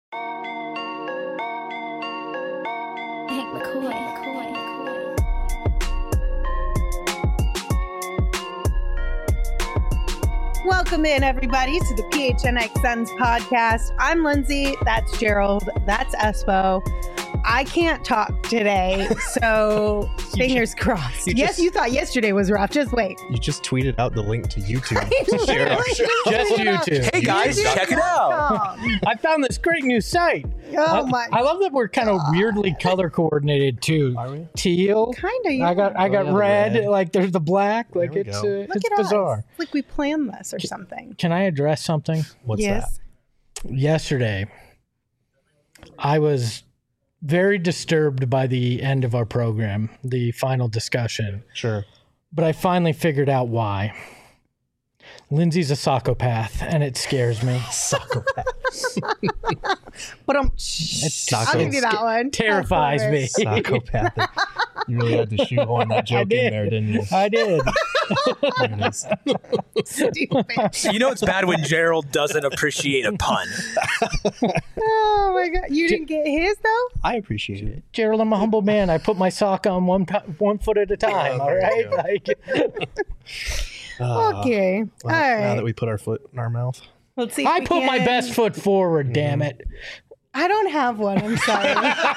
Hank McCoy. Welcome in, everybody, to the PHNX Suns podcast. I'm Lindsay. That's Gerald. That's Espo. I can't talk today, so fingers crossed. Yes, you thought yesterday was rough. Just wait. You just tweeted out the link to YouTube to share our show. Just YouTube. Hey guys, check it out. I found this great new site. Oh my! I love that we're kind of weirdly color coordinated too. Are we? Teal. Kind of. Yeah. I got yeah, red. red. Like there's the black. Like we it's go. Look it's at bizarre. us. It's like we planned this or something. Can I address something? What's Yes. Yesterday, I was very disturbed by the end of our program, the final discussion. that? Sure. But I finally figured out why. Lindsay's a psychopath, and it scares me. Psychopath. But I'll give you that one. Terrifies me. Psychopathic. You really had to shoehorn that joke in there, didn't you? I did. There it is. Stupid. You know it's bad when Gerald doesn't appreciate a pun. Oh my god! You didn't get his though. I appreciate it. Gerald, I'm a humble man. I put my sock on one foot at a time. All right. Yeah. Like, Okay. Well, All right. Now that we put our foot in our mouth. Let's see. If I we put my can- best foot forward. Damn it. I don't have one. I'm sorry.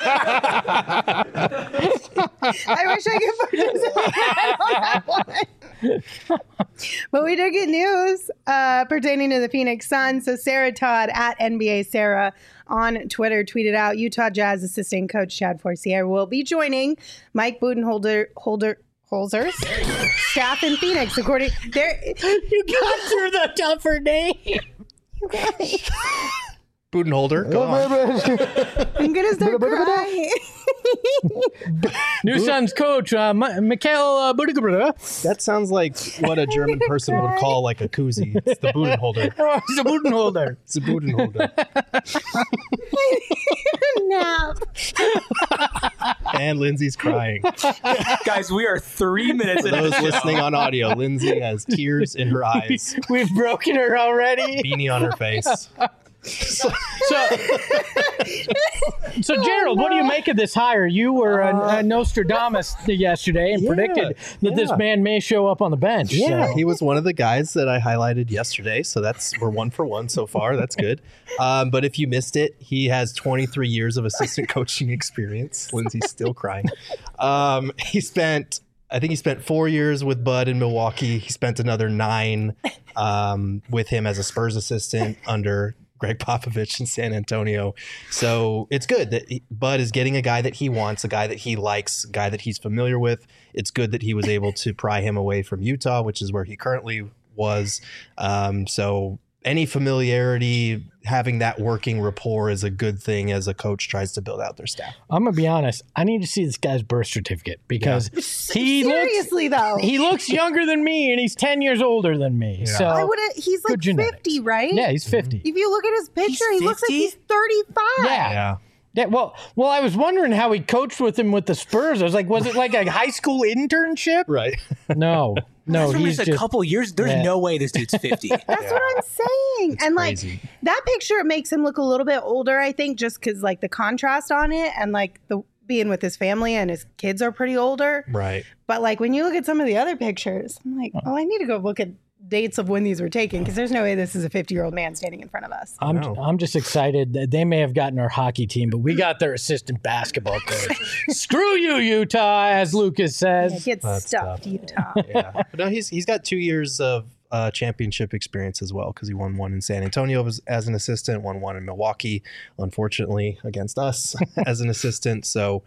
I wish I could participate. I don't have one. But we did get news pertaining to the Phoenix Suns. So Sarah Todd at NBA Sarah on Twitter tweeted out Utah Jazz assistant coach Chad Forcier will be joining Mike Budenholzer's staff in Phoenix. According there, You got through the tougher name. you guys, Budenholzer, go on. I'm gonna start crying. New Suns coach, Mikhail Budenholzer. That sounds like what a German person would call like a koozie. It's the Budenholzer. Oh, he's a Budenholzer. It's a Budenholzer. Nap. And Lindsay's crying. Guys, we are 3 minutes For into those the show. listening on audio, Lindsay has tears in her eyes, We've broken her already. beanie on her face. So Gerald, what do you make of this hire? You were a Nostradamus yesterday and predicted that this man may show up on the bench. Yeah, So. he was one of the guys that I highlighted yesterday. So we're 1 for 1 so far. That's good. But if you missed it, he has 23 years of assistant coaching experience. Lindsay's still crying. I think he spent 4 years with Bud in Milwaukee. He spent another 9 with him as a Spurs assistant under Greg Popovich in San Antonio. So it's good that Bud is getting a guy that he wants, a guy that he likes, a guy that he's familiar with. It's good that he was able to pry him away from Utah, which is where he currently was. So any familiarity, having that working rapport is a good thing as a coach tries to build out their staff. I'm gonna be honest. I need to see this guy's birth certificate because he Seriously though, looks younger than me and he's 10 years older than me. So I would. He's like Good genetics. 50, right? yeah, he's 50. If you look at his picture, he looks like 50? he's 35. Yeah. Yeah, well, I was wondering how he coached with him with the Spurs. I was like, was it like a high school internship? Right. No, From he's just a couple years. There's Yeah. no way this dude's 50. That's what I'm saying. And crazy. like that picture, it makes him look a little bit older, I think, just because like the contrast on it and like the being with his family and his kids are pretty older. Right. But like when you look at some of the other pictures, I'm like, oh, I need to go look at dates of when these were taken because there's no way this is a 50-year-old man standing in front of us. I'm just excited that they may have gotten our hockey team, but we got their assistant basketball coach. Screw you, Utah, as Lucas says. Get That's stuffed, tough. Utah. Yeah. But no, he's got 2 years of championship experience as well because he won one in San Antonio as an assistant, won one in Milwaukee, unfortunately against us as an assistant. So,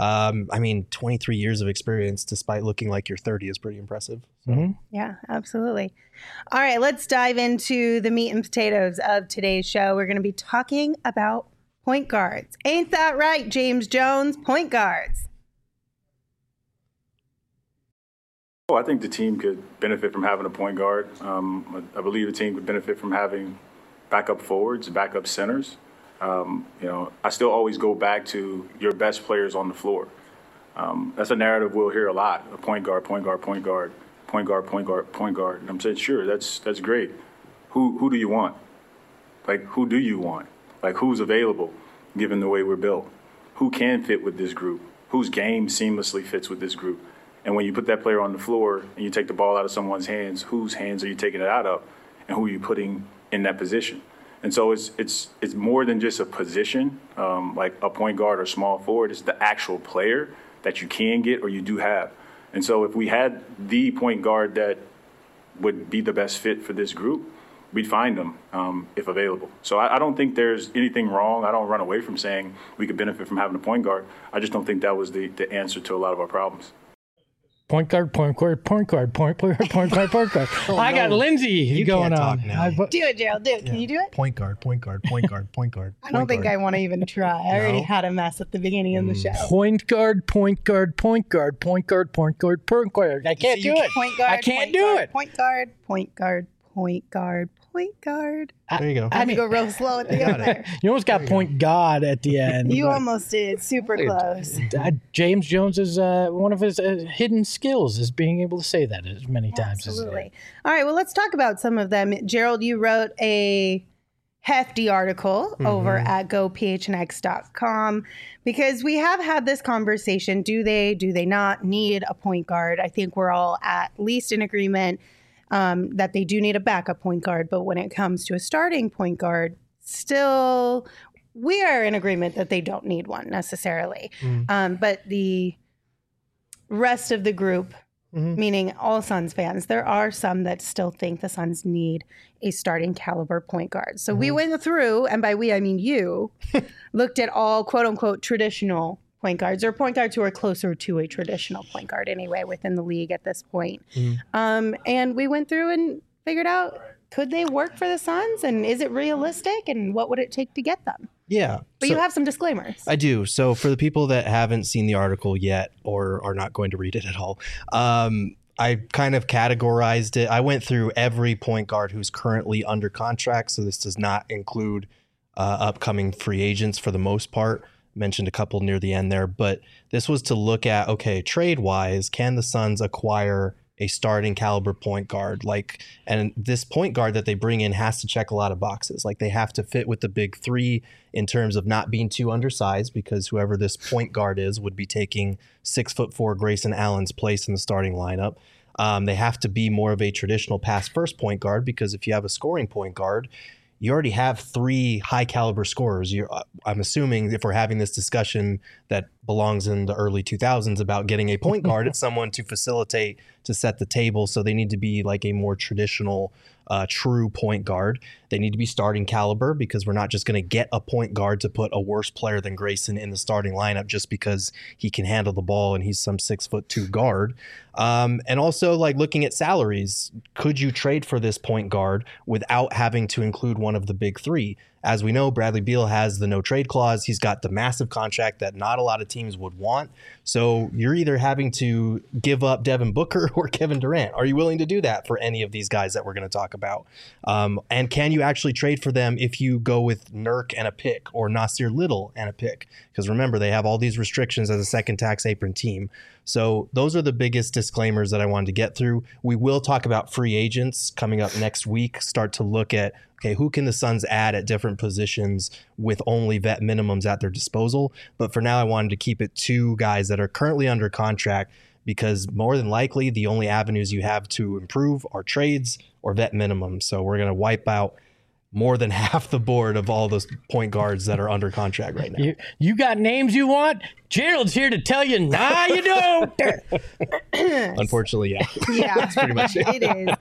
23 years of experience despite looking like you're 30 is pretty impressive. So. Yeah, absolutely. All right, let's dive into the meat and potatoes of today's show. We're going to be talking about point guards. Ain't that right, James Jones? Point guards. Oh, I think the team could benefit from having a point guard. I believe the team could benefit from having backup forwards, backup centers. I still always go back to your best players on the floor. That's a narrative we'll hear a lot. A point guard, point guard, point guard, point guard, point guard, point guard. And I'm saying, sure, that's great. Who do you want? Like, who do you want? Like, who's available given the way we're built? Who can fit with this group? Whose game seamlessly fits with this group? And when you put that player on the floor and you take the ball out of someone's hands, whose hands are you taking it out of, and who are you putting in that position? And so it's more than just a position, like a point guard or small forward. It's the actual player that you can get or you do have. And so if we had the point guard that would be the best fit for this group, we'd find them if available. So I don't think there's anything wrong. I don't run away from saying we could benefit from having a point guard. I just don't think that was the answer to a lot of our problems. Point guard, point guard, point guard, point guard, point guard, point guard. I got Lindsay going can't on. talk now. Do it, Gerald. Do it. Can you do it? Point guard, point guard, point guard, point guard. I don't think I want to even try. I already had a mess at the beginning of the show. Point guard, point guard, point guard, point guard, point guard, point guard. I can't do it. Point guard. I can't point do guard, it. Point guard. Point guard. Point guard. Point guard. There you go. I had to go real slow at the end there. You almost got point God at the end. You almost did. Super close. James Jones is one of his hidden skills is being able to say that as many times Absolutely. All right. Well, let's talk about some of them. Gerald, you wrote a hefty article over at gophnx.com because we have had this conversation. Do they not need a point guard? I think we're all at least in agreement that they do need a backup point guard. But when it comes to a starting point guard, still we are in agreement that they don't need one necessarily. But the rest of the group, meaning all Suns fans, there are some that still think the Suns need a starting caliber point guard. So we went through, and by we, I mean you, looked at all quote unquote traditional point guards or point guards who are closer to a traditional point guard anyway within the league at this point. And we went through and figured out, could they work for the Suns? And is it realistic? And what would it take to get them? Yeah. But you have some disclaimers. I do. So for the people that haven't seen the article yet or are not going to read it at all, I kind of categorized it. I went through every point guard who's currently under contract. So this does not include upcoming free agents for the most part. Mentioned a couple near the end there, but this was to look at, okay, trade-wise, can the Suns acquire a starting caliber point guard? And this point guard that they bring in has to check a lot of boxes. Like, they have to fit with the big three in terms of not being too undersized, because whoever this point guard is would be taking 6'4" Grayson Allen's place in the starting lineup. They have to be more of a traditional pass-first point guard, because if you have a scoring point guard, you already have three high caliber scorers. I'm assuming if we're having this discussion that belongs in the early 2000s about getting a point guard, it's someone to facilitate, to set the table. So they need to be like a more traditional, true point guard. They need to be starting caliber, because we're not just going to get a point guard to put a worse player than Grayson in the starting lineup just because he can handle the ball and he's some 6'2" guard. And also, like, looking at salaries, could you trade for this point guard without having to include one of the big three? As we know, Bradley Beal has the no trade clause. He's got the massive contract that not a lot of teams would want. So you're either having to give up Devin Booker or Kevin Durant. Are you willing to do that for any of these guys that we're going to talk about? And can you actually trade for them if you go with Nurk and a pick, or Nasir Little and a pick? Because remember, they have all these restrictions as a second tax apron team. So those are the biggest disclaimers that I wanted to get through. We will talk about free agents coming up next week, start to look at, okay, who can the Suns add at different positions with only vet minimums at their disposal? But for now, I wanted to keep it two guys that are currently under contract, because more than likely the only avenues you have to improve are trades or vet minimums. So we're going to wipe out more than half the board of all those point guards that are under contract right now. You got names you want? Gerald's here to tell you, nah, you don't. Unfortunately, yeah. Yeah, That's pretty much it. it is.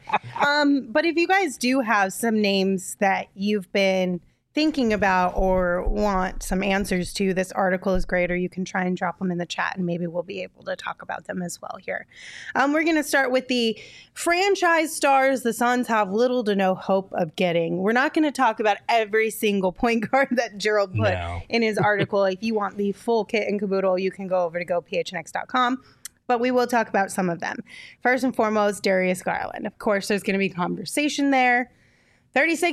But if you guys do have some names that you've been thinking about or want some answers to, this article is great, or you can try and drop them in the chat and maybe we'll be able to talk about them as well here. We're going to start with the franchise stars the Suns have little to no hope of getting. We're not going to talk about every single point guard that Gerald put in his article. If you want the full kit and caboodle, you can go over to gophnx.com. But we will talk about some of them. First and foremost, Darius Garland. Of course, there's going to be conversation there.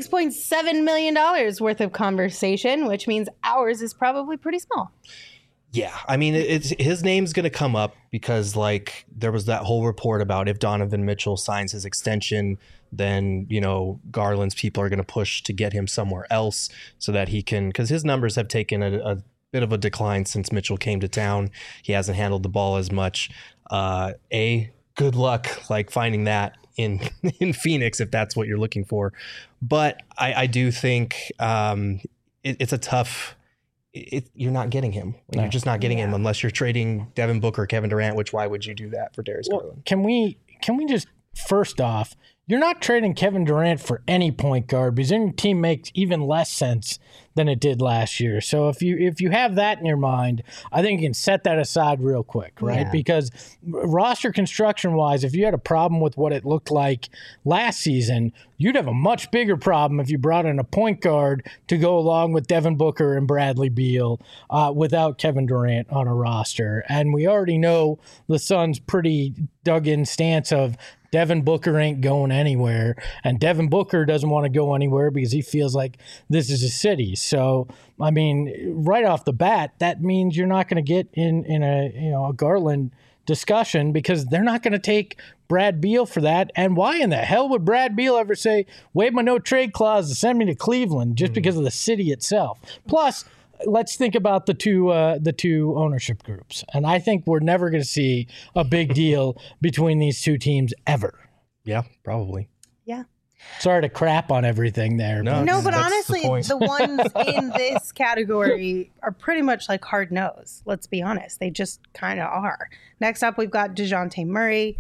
$36.7 million worth of conversation, which means ours is probably pretty small. Yeah, I mean, it's his name's going to come up because, like, there was that whole report about if Donovan Mitchell signs his extension, then, you know, Garland's people are going to push to get him somewhere else so that he can, because his numbers have taken a bit of a decline since Mitchell came to town. He hasn't handled the ball as much. Good luck, like, finding that in Phoenix if that's what you're looking for. But I do think it's a tough. You're not getting him. No. You're just not getting him unless you're trading Devin Booker, Kevin Durant. Which why would you do that for Darius Garland? Can we just first off, you're not trading Kevin Durant for any point guard because then your team makes even less sense than it did last year. So if you have that in your mind, I think you can set that aside real quick, right? Yeah. Because roster construction wise, if you had a problem with what it looked like last season, you'd have a much bigger problem if you brought in a point guard to go along with Devin Booker and Bradley Beal without Kevin Durant on a roster. And we already know the Suns' pretty dug-in stance of Devin Booker ain't going anywhere, and Devin Booker doesn't want to go anywhere because he feels like this is a city. So, I mean, right off the bat, that means you're not going to get in a Garland discussion because they're not going to take Brad Beal for that. And why in the hell would Brad Beal ever say, waive my no trade clause to send me to Cleveland just because of the city itself? Plus, let's think about the two ownership groups. And I think we're never going to see a big deal between these two teams ever. Yeah, probably. Yeah. Sorry to crap on everything there. No, No, but that's honestly, the point. the ones in this category are pretty much like hard nose. Let's be honest. They just kind of are. Next up, we've got DeJounte Murray,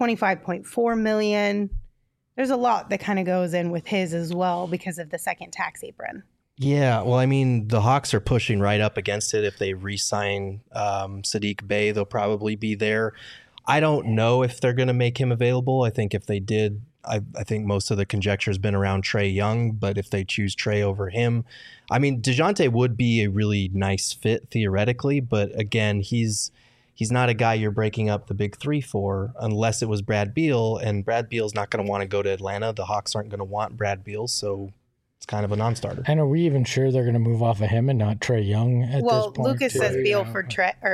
$25.4 million. There's a lot that kind of goes in with his as well because of the second tax apron. Yeah, well, I mean, the Hawks are pushing right up against it. If they re-sign Sadiq Bey, they'll probably be there. I don't know if they're going to make him available. I think if they did, I think most of the conjecture has been around Trae Young, but if they choose Trae over him, I mean, DeJounte would be a really nice fit theoretically, but again, he's not a guy you're breaking up the big three for unless it was Brad Beal, and Brad Beal's not going to want to go to Atlanta. The Hawks aren't going to want Brad Beal, so it's kind of a non-starter. And are we even sure they're going to move off of him and not Trae Young at Well, this point? Lucas too? says Beal for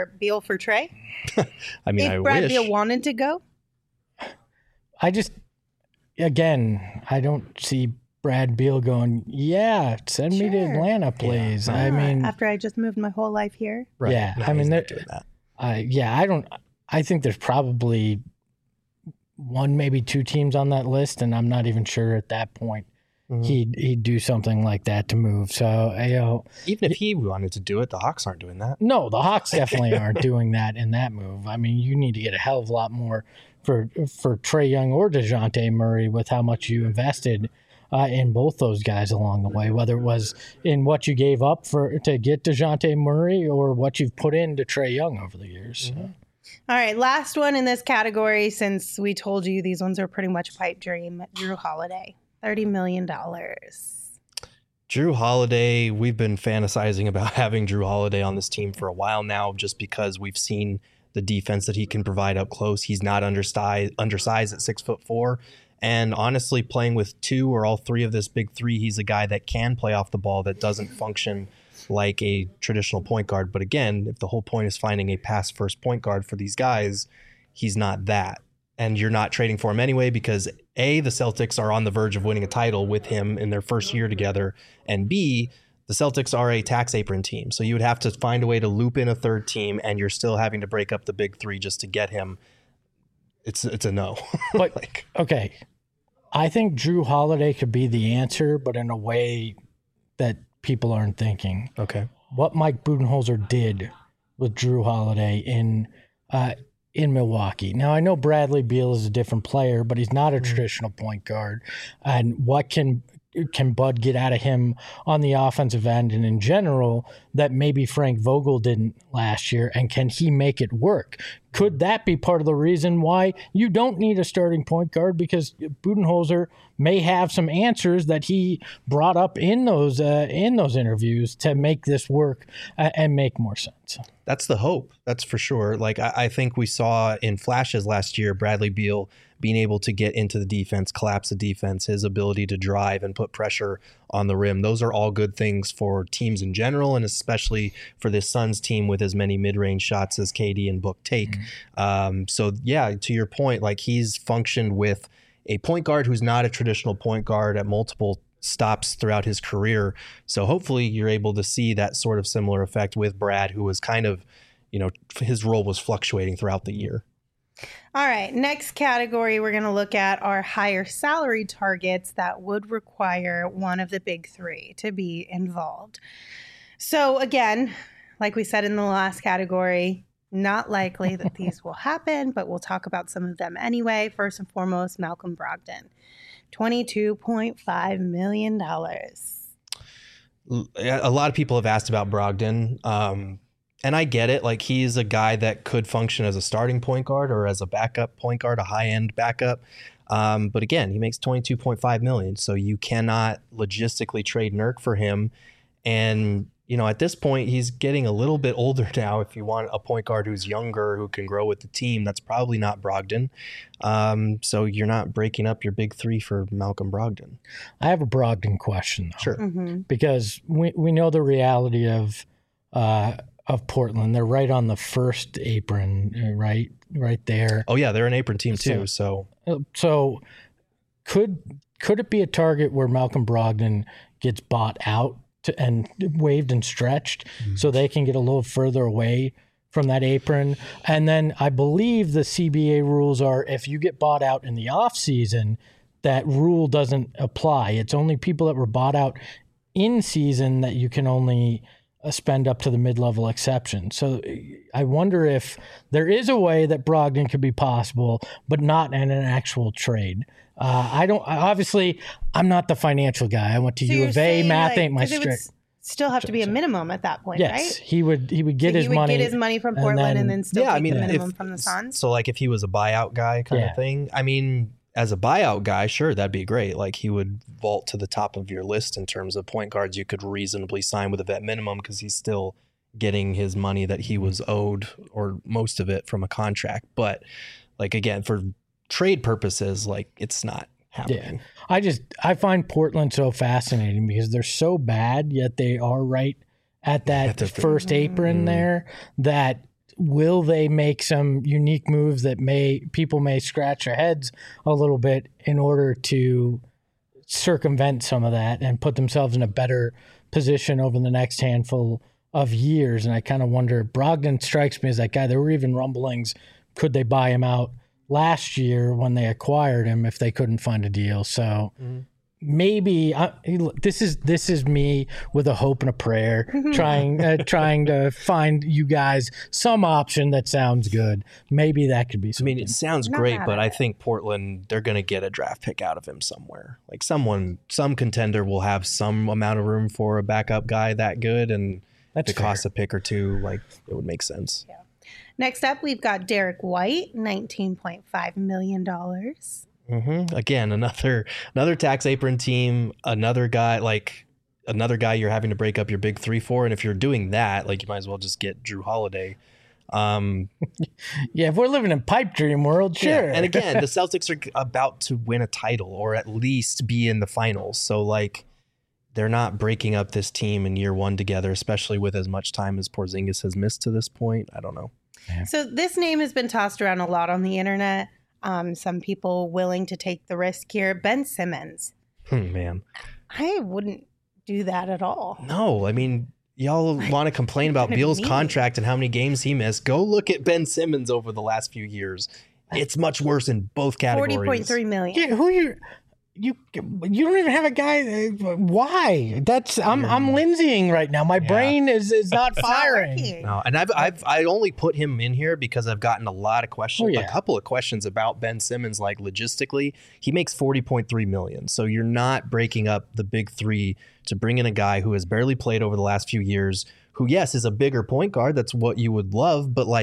Trae. I mean, I If Brad wish. Beal wanted to go, I don't see Brad Beal going, yeah, send me to Sure. Atlanta, please. Yeah. I mean, after I just moved my whole life here. Right. yeah, No, I mean, he's they're- not doing that. I think there's probably one, maybe two teams on that list, and I'm not even sure at that point Mhm. he'd do something like that to move. So, Even if he wanted to do it, the Hawks aren't doing that. no, the Hawks definitely aren't doing that in that move. I mean, you need to get a hell of a lot more for Trae Young or DeJounte Murray with how much you invested in both those guys along the way, whether it was in what you gave up to get DeJounte Murray or what you've put into Trae Young over the years. So. All right, last one in this category, since we told you these ones are pretty much a pipe dream, Drew Holiday, $30 million. Drew Holiday, we've been fantasizing about having Drew Holiday on this team for a while now just because we've seen the defense that he can provide up close. He's not undersized at 6'4". And honestly, playing with two or all three of this big three, he's a guy that can play off the ball that doesn't function like a traditional point guard. But again, if the whole point is finding a pass-first point guard for these guys, he's not that. And you're not trading for him anyway because A, the Celtics are on the verge of winning a title with him in their first year together, and B, the Celtics are a tax apron team. So you would have to find a way to loop in a third team, and you're still having to break up the big three just to get him. It's a no. But okay, I think Drew Holiday could be the answer, but in a way that people aren't thinking. Okay. What Mike Budenholzer did with Drew Holiday in Milwaukee. Now I know Bradley Beal is a different player, but he's not a traditional point guard. And what can Bud get out of him on the offensive end and in general that maybe Frank Vogel didn't last year? And can he make it work? Could that be part of the reason why you don't need a starting point guard? Because Budenholzer may have some answers that he brought up in those interviews to make this work and make more sense. That's the hope. That's for sure. Like I think we saw in flashes last year, Bradley Beal being able to get into the defense, collapse the defense, his ability to drive and put pressure on the rim. Those are all good things for teams in general, and especially for this Suns team with as many mid-range shots as KD and Book take. So yeah, to your point, like he's functioned with a point guard who's not a traditional point guard at multiple stops throughout his career. So hopefully you're able to see that sort of similar effect with Brad, who was kind of, his role was fluctuating throughout the year. All right, next category we're going to look at are higher salary targets that would require one of the big three to be involved. So again, like we said in the last category, not likely that these will happen, but we'll talk about some of them anyway. First and foremost, Malcolm Brogdon, $22.5 million. A lot of people have asked about Brogdon. And I get it. Like he's a guy that could function as a starting point guard or as a backup point guard, a high-end backup. But again, he makes $22.5 million. So you cannot logistically trade Nurk for him. And, at this point, he's getting a little bit older now. If you want a point guard who's younger, who can grow with the team, that's probably not Brogdon. So you're not breaking up your big three for Malcolm Brogdon. I have a Brogdon question, though. Sure. Because we know the reality of Portland. They're right on the first apron, right there. Oh yeah, they're an apron team too. So could it be a target where Malcolm Brogdon gets bought out and waived and stretched so they can get a little further away from that apron? And then I believe the CBA rules are if you get bought out in the off season, that rule doesn't apply. It's only people that were bought out in season that you can only spend up to the mid-level exception. So I wonder if there is a way that Brogdon could be possible, but not in an actual trade. I'm not the financial guy. I went to U of A. Math ain't my strength. Still have to be a minimum at that point, yes, right? he would get his money. Get his money from Portland and then still take the minimum from the Suns. So like if he was a buyout guy kind of thing, I mean, as a buyout guy, sure, that'd be great. Like he would vault to the top of your list in terms of point guards you could reasonably sign with a vet minimum because he's still getting his money that he was owed or most of it from a contract. But like, again, for trade purposes, like it's not happening. Yeah. I find Portland so fascinating because they're so bad, yet they are right at that first apron there. That will they make some unique moves that people may scratch their heads a little bit in order to circumvent some of that and put themselves in a better position over the next handful of years? And I kind of wonder, Brogdon strikes me as that guy. There were even rumblings, could they buy him out last year when they acquired him if they couldn't find a deal? So maybe this is me with a hope and a prayer, trying to find you guys some option that sounds good. Maybe that could be something. I mean, it sounds great, but I think Portland, they're going to get a draft pick out of him somewhere. Like some contender will have some amount of room for a backup guy that good, and if it costs a pick or two, like it would make sense. Yeah. Next up, we've got Derek White, $19.5 million. Again, another tax apron team, another guy you're having to break up your big three for. And if you're doing that, like you might as well just get Drew Holiday. If we're living in pipe dream world, sure. Yeah. And again, the Celtics are about to win a title or at least be in the finals. So like they're not breaking up this team in year one together, especially with as much time as Porzingis has missed to this point. I don't know. Yeah. So this name has been tossed around a lot on the internet. Some people willing to take the risk here. Ben Simmons. Man. I wouldn't do that at all. No, I mean, y'all want to complain about Beal's contract and how many games he missed. Go look at Ben Simmons over the last few years. It's much worse in both categories. $40.3 million. Yeah, you don't even have a guy. Why? I'm Lindsaying right now. My brain is not firing. No, and I only put him in here because I've gotten a lot of questions, a couple of questions about Ben Simmons. Like logistically, he makes $40.3 million. So you're not breaking up the big three to bring in a guy who has barely played over the last few years. Who, yes, is a bigger point guard. That's what you would love, but like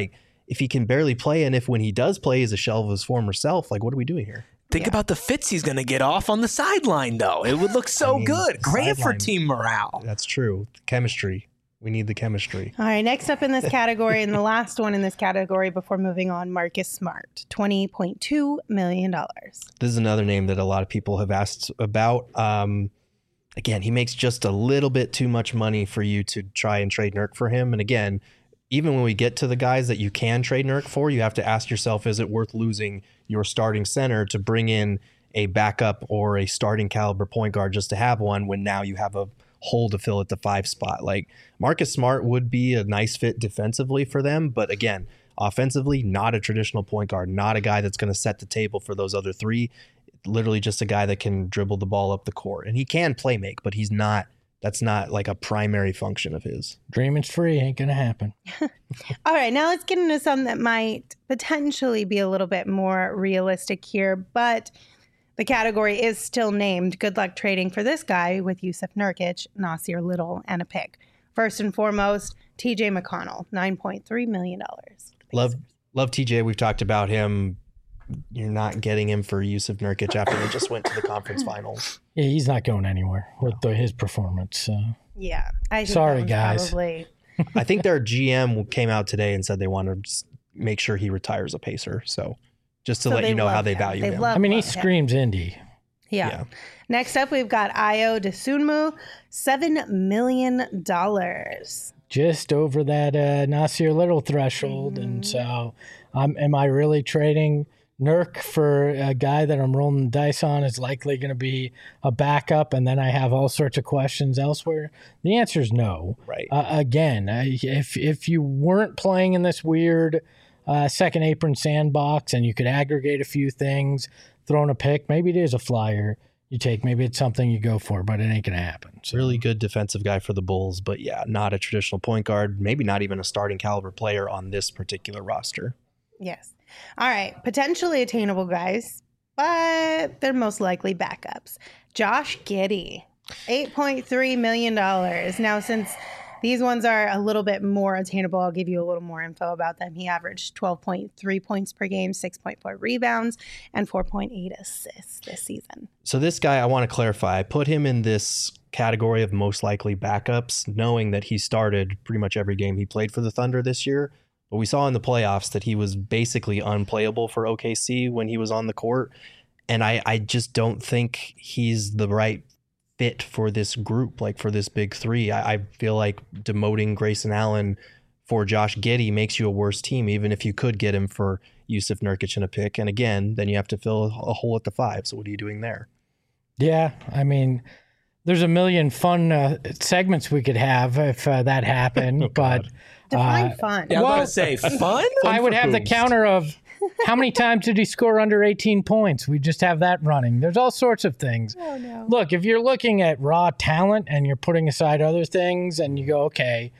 if he can barely play, and if when he does play, he's a shell of his former self, like, what are we doing here? Think about the fits he's going to get off on the sideline, though. It would look so good. Great for team morale. That's true. Chemistry. We need the chemistry. All right, next up in this category, and the last one in this category before moving on, Marcus Smart, $20.2 million. This is another name that a lot of people have asked about. Again, he makes just a little bit too much money for you to try and trade Nurk for him. And again, even when we get to the guys that you can trade Nurk for, you have to ask yourself, is it worth losing your starting center to bring in a backup or a starting caliber point guard just to have one when now you have a hole to fill at the 5 spot? Like, Marcus Smart would be a nice fit defensively for them, but again, offensively, not a traditional point guard, not a guy that's going to set the table for those other 3. Literally just a guy that can dribble the ball up the court, and he can play make, but he's not. That's not like a primary function of his. Dreaming's free, ain't gonna happen. All right, now let's get into some that might potentially be a little bit more realistic here, but the category is still named Good Luck Trading for this guy with Jusuf Nurkic, Nasir Little, and a pick. First and foremost, TJ McConnell, $9.3 million. Love TJ. We've talked about him. You're not getting him for Jusuf Nurkic after they just went to the conference finals. Yeah, he's not going anywhere with his performance. Yeah. I think Sorry, that was guys. Probably... I think their GM came out today and said they want to make sure he retires a Pacer. So just to let you know how they value him. I mean, he screams Indy. Yeah. Next up, we've got Ayo Dosunmu, $7 million. Just over that Nasir Little threshold. And so am I really trading Nurk for a guy that I'm rolling the dice on is likely going to be a backup, and then I have all sorts of questions elsewhere? The answer is no. Right. Again, if you weren't playing in this weird second apron sandbox and you could aggregate a few things, throw in a pick, maybe it is a flyer you take, maybe it's something you go for, but it ain't going to happen. So. Really good defensive guy for the Bulls, but yeah, not a traditional point guard, maybe not even a starting caliber player on this particular roster. Yes. All right. Potentially attainable guys, but they're most likely backups. Josh Giddey, $8.3 million. Now, since these ones are a little bit more attainable, I'll give you a little more info about them. He averaged 12.3 points per game, 6.4 rebounds, and 4.8 assists this season. So this guy, I want to clarify, I put him in this category of most likely backups, knowing that he started pretty much every game he played for the Thunder this year. But we saw in the playoffs that he was basically unplayable for OKC when he was on the court. And I just don't think he's the right fit for this group, like for this big 3. I feel like demoting Grayson Allen for Josh Giddey makes you a worse team, even if you could get him for Jusuf Nurkic and a pick. And again, then you have to fill a hole at the 5. So what are you doing there? Yeah, I mean, there's a million fun segments we could have if that happened, but... Define fun. Yeah, I was going to say, fun? I would have the counter of how many times did he score under 18 points? We just have that running. There's all sorts of things. Oh, no. Look, if you're looking at raw talent and you're putting aside other things and you go, okay,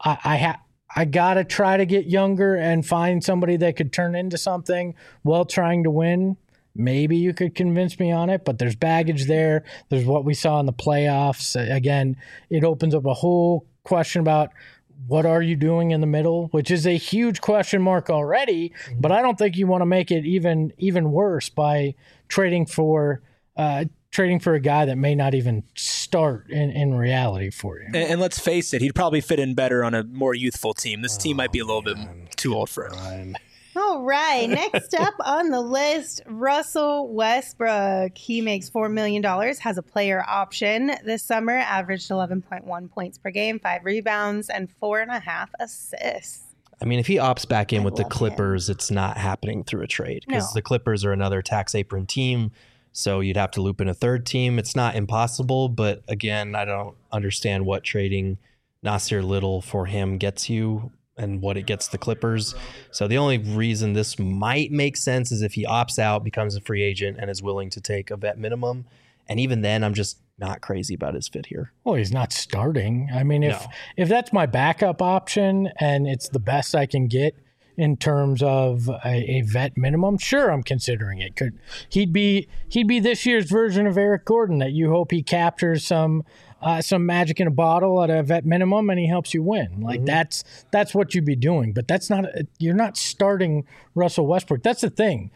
I got to try to get younger and find somebody that could turn into something while trying to win, maybe you could convince me on it, but there's baggage there. There's what we saw in the playoffs. Again, it opens up a whole question about what are you doing in the middle, which is a huge question mark already, but I don't think you want to make it even worse by trading for a guy that may not even start in reality for you. And let's face it, he'd probably fit in better on a more youthful team. This team might be a little bit too old for him. All right. Next up on the list, Russell Westbrook. He makes $4 million, has a player option this summer, averaged 11.1 points per game, 5 rebounds, and 4.5 assists. I mean, if he opts back in with the Clippers, it's not happening through a trade because the Clippers are another tax apron team. So you'd have to loop in a third team. It's not impossible, but again, I don't understand what trading Nasir Little for him gets you and what it gets the Clippers. So the only reason this might make sense is if he opts out, becomes a free agent, and is willing to take a vet minimum. And even then, I'm just not crazy about his fit here. Well, he's not starting. I mean, if that's my backup option and it's the best I can get in terms of a vet minimum, sure, I'm considering it. He'd be this year's version of Eric Gordon that you hope he captures some some magic in a bottle at a vet minimum, and he helps you win. Like that's what you'd be doing. But you're not starting Russell Westbrook. That's the thing.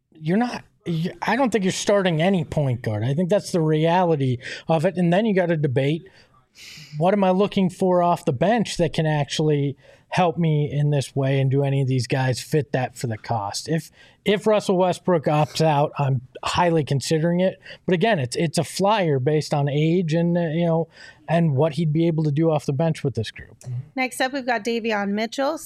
I don't think you're starting any point guard. I think that's the reality of it. And then you got to debate, what am I looking for off the bench that can actually help me in this way, and do any of these guys fit that for the cost? If Russell Westbrook opts out, I'm highly considering it. But again, it's a flyer based on age and and what he'd be able to do off the bench with this group. Next up, we've got Davion Mitchell,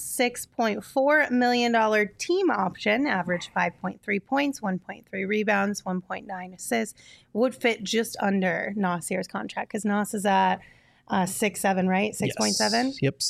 $6.4 million team option, average 5.3 points, 1.3 rebounds, 1.9 assists. Would fit just under Nasir's contract, because Nas is at 6.7, right? 6.7? Yes. Yep,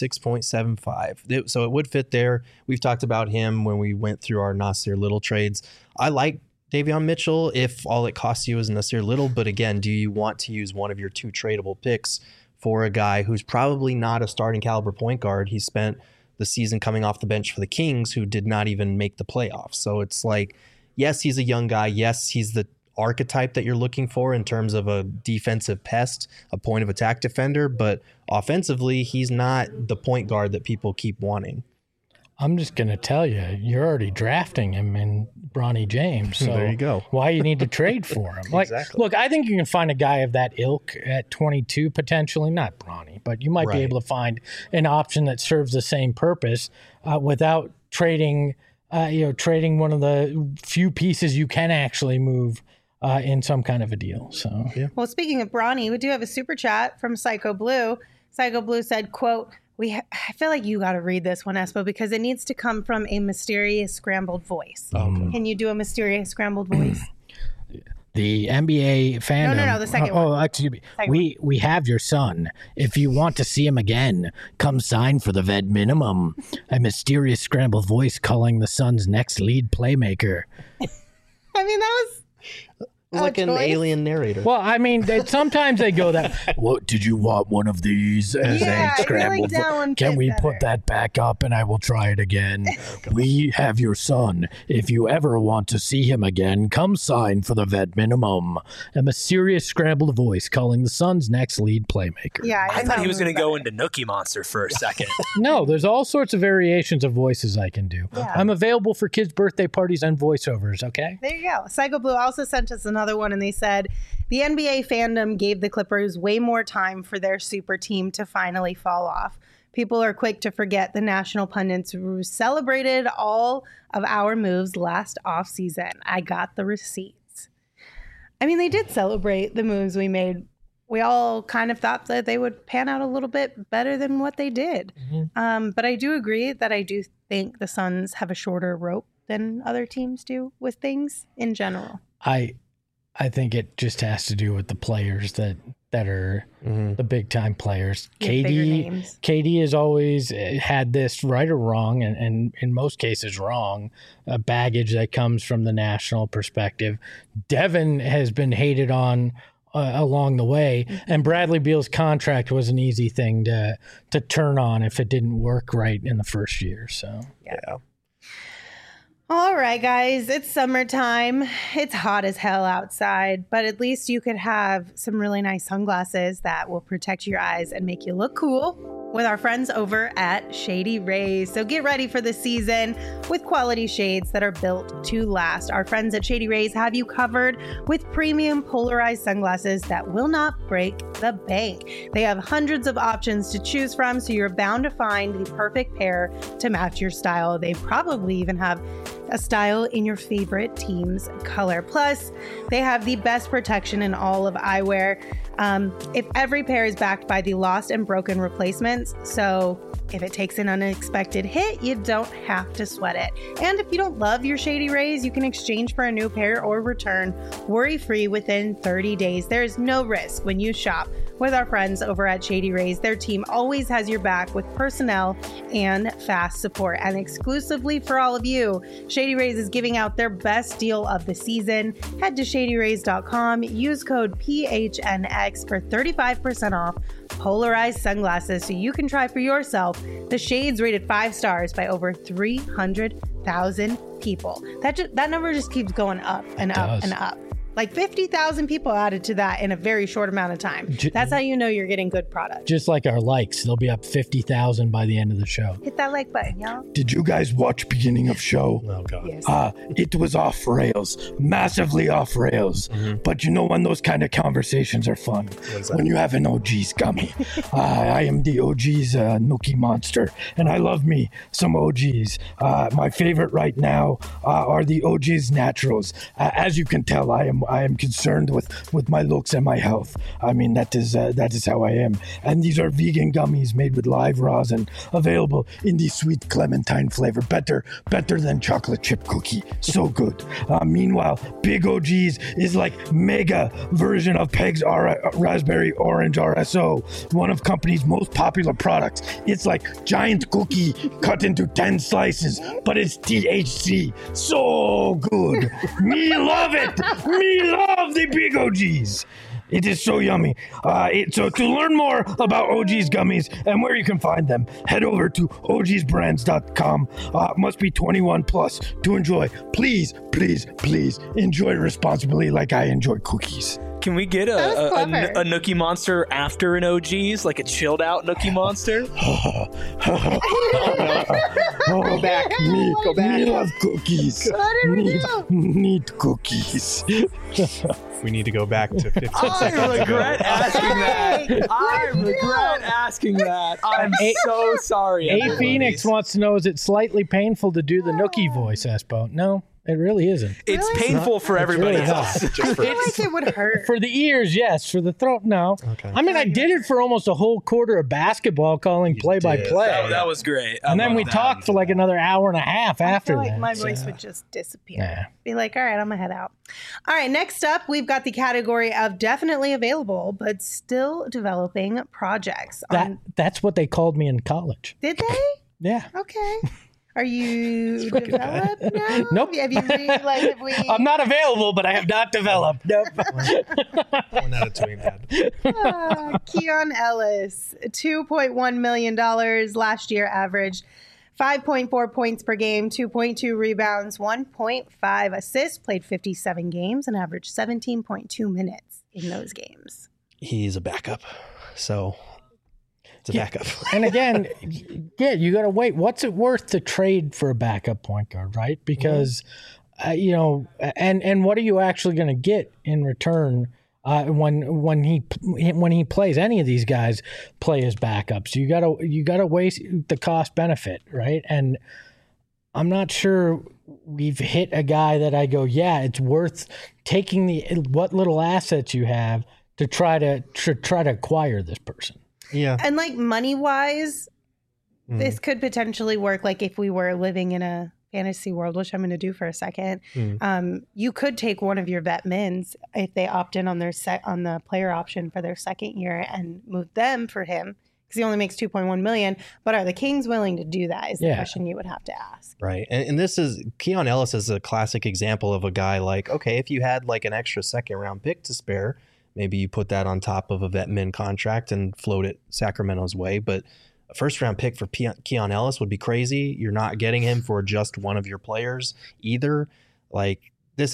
6.75. So it would fit there. We've talked about him when we went through our Nasir Little trades. I like Davion Mitchell if all it costs you is Nasir Little. But again, do you want to use one of your 2 tradable picks for a guy who's probably not a starting caliber point guard? He spent the season coming off the bench for the Kings, who did not even make the playoffs. So it's like, yes, he's a young guy. Yes, he's the archetype that you're looking for in terms of a defensive pest, a point of attack defender, but offensively, he's not the point guard that people keep wanting. I'm just going to tell you, you're already drafting him in Bronny James. So there you go. Why you need to trade for him? Exactly. Look, I think you can find a guy of that ilk at 22 potentially, not Bronny, but you might be able to find an option that serves the same purpose without trading one of the few pieces you can actually move in some kind of a deal. So yeah. Well, speaking of Bronny, we do have a super chat from Psycho Blue. Psycho Blue said, quote, I feel like you got to read this one, Espo, because it needs to come from a mysterious scrambled voice. Okay. Can you do a mysterious scrambled voice? The NBA fandom. No, the second one. Oh, excuse me. We have your son. If you want to see him again, come sign for the vet minimum. A mysterious scrambled voice calling the Suns' next lead playmaker. I mean, that was like an alien narrator. Well, I mean, sometimes they go that. What did you want? One of these as a scrambled? Can we put that back up and I will try it again? We have your son. If you ever want to see him again, come sign for the vet minimum. A mysterious scrambled voice calling the Suns' next lead playmaker. Yeah, I thought he was going to go into Nookie Monster for a second. No, there's all sorts of variations of voices I can do. Yeah. I'm available for kids' birthday parties and voiceovers. Okay. There you go. Psycho Blue also sent us another one, and they said the NBA fandom gave the Clippers way more time for their super team to finally fall off. People are quick to forget the national pundits celebrated all of our moves last offseason. I got the receipts. I mean, they did celebrate the moves we made. We all kind of thought that they would pan out a little bit better than what they did. Mm-hmm. But I do agree that I do think the Suns have a shorter rope than other teams do with things in general. I think it just has to do with the players that are the big time players. KD has always had this, right or wrong, and in most cases wrong, baggage that comes from the national perspective. Devin has been hated on along the way, and Bradley Beal's contract was an easy thing to turn on if it didn't work right in the first year. So yeah. All right, guys, it's summertime. It's hot as hell outside, but at least you could have some really nice sunglasses that will protect your eyes and make you look cool with our friends over at Shady Rays. So get ready for the season with quality shades that are built to last. Our friends at Shady Rays have you covered with premium polarized sunglasses that will not break the bank. They have hundreds of options to choose from, so you're bound to find the perfect pair to match your style. They probably even have a style in your favorite team's color. Plus, they have the best protection in all of eyewear. If every pair is backed by the lost and broken replacements, so if it takes an unexpected hit, you don't have to sweat it. And if you don't love your Shady Rays, you can exchange for a new pair or return worry-free within 30 days. There is no risk when you shop with our friends over at Shady Rays. Their team always has your back with personnel and fast support. And exclusively for all of you, Shady Rays is giving out their best deal of the season. Head to shadyrays.com, use code PHNX for 35% off polarized sunglasses so you can try for yourself the shades rated 5 stars by over 300,000 people. That number just keeps going up and up and up. Like 50,000 people added to that in a very short amount of time. That's how you know you're getting good product. Just like our likes, they'll be up 50,000 by the end of the show. Hit that like button, y'all. Did you guys watch beginning of show? Oh God. Yes. It was off rails, massively off rails. But you know when those kind of conversations are fun? When you have an OG's gummy. I am the OG's Nookie Monster, and I love me some OG's. My favorite right now are the OG's Naturals. As you can tell, I am concerned with my looks and my health. I mean, that is how I am. And these are vegan gummies made with live rosin, available in the sweet clementine flavor. Better than chocolate chip cookie. So good. Meanwhile, Big OG's is like mega version of Peg's Raspberry Orange RSO, one of company's most popular products. It's like giant cookie cut into 10 slices, but it's THC. So good. Me love it. Me love the Big OGs. It is so yummy. So to learn more about OG's gummies and where you can find them, head over to ogsbrands.com. Must be 21 plus to enjoy. Please enjoy responsibly like I enjoy cookies. Can we get a Nookie Monster after an OG's, like a chilled out Nookie Monster? Go back. Go back. Me love cookies. Need cookies. We need to go back to 15 I seconds regret ago. asking that. I regret asking that. I'm so sorry. A Phoenix wants to know, is it slightly painful to do the Nookie voice, Espo? No, it really isn't. It's painful for everybody really else. I feel like it would hurt. For the ears, yes. For the throat, no. Okay. I mean, I did it for almost a whole quarter of basketball, calling play-by-play. That was great. And then we talked for like another hour and a half I after feel like that. my voice would just disappear. Nah. Be like, all right, I'm gonna head out. All right, next up, we've got the category of definitely available but still developing projects. That's what they called me in college. Did they? Yeah. Okay. Are you developed now? Nope. Have you have we? I'm not available, but I have not developed. Nope. 1 out of 2 ain't bad. Keon Ellis, $2.1 million last year averaged 5.4 points per game, 2.2 rebounds, 1.5 assists, played 57 games and averaged 17.2 minutes in those games. He's a backup, so it's a backup. And again, yeah, you got to wait. What's it worth to trade for a backup point guard, right? Because, and what are you actually going to get in return when he plays? Any of these guys play as backups. You gotta weigh the cost benefit, right? And I'm not sure we've hit a guy that I go, yeah, it's worth taking what little assets you have to try to acquire this person. Yeah. And like money wise, this could potentially work. Like if we were living in a fantasy world, which I'm going to do for a second, you could take one of your vet mins if they opt in on the player option for their second year and move them for him because he only makes 2.1 million. But are the Kings willing to do that? Is the question you would have to ask. Right. And this is Keon Ellis is a classic example of a guy like, okay, if you had like an extra second round pick to spare, maybe you put that on top of a vet min contract and float it Sacramento's way. But a first round pick for Keon Ellis would be crazy. You're not getting him for just one of your players either. Like this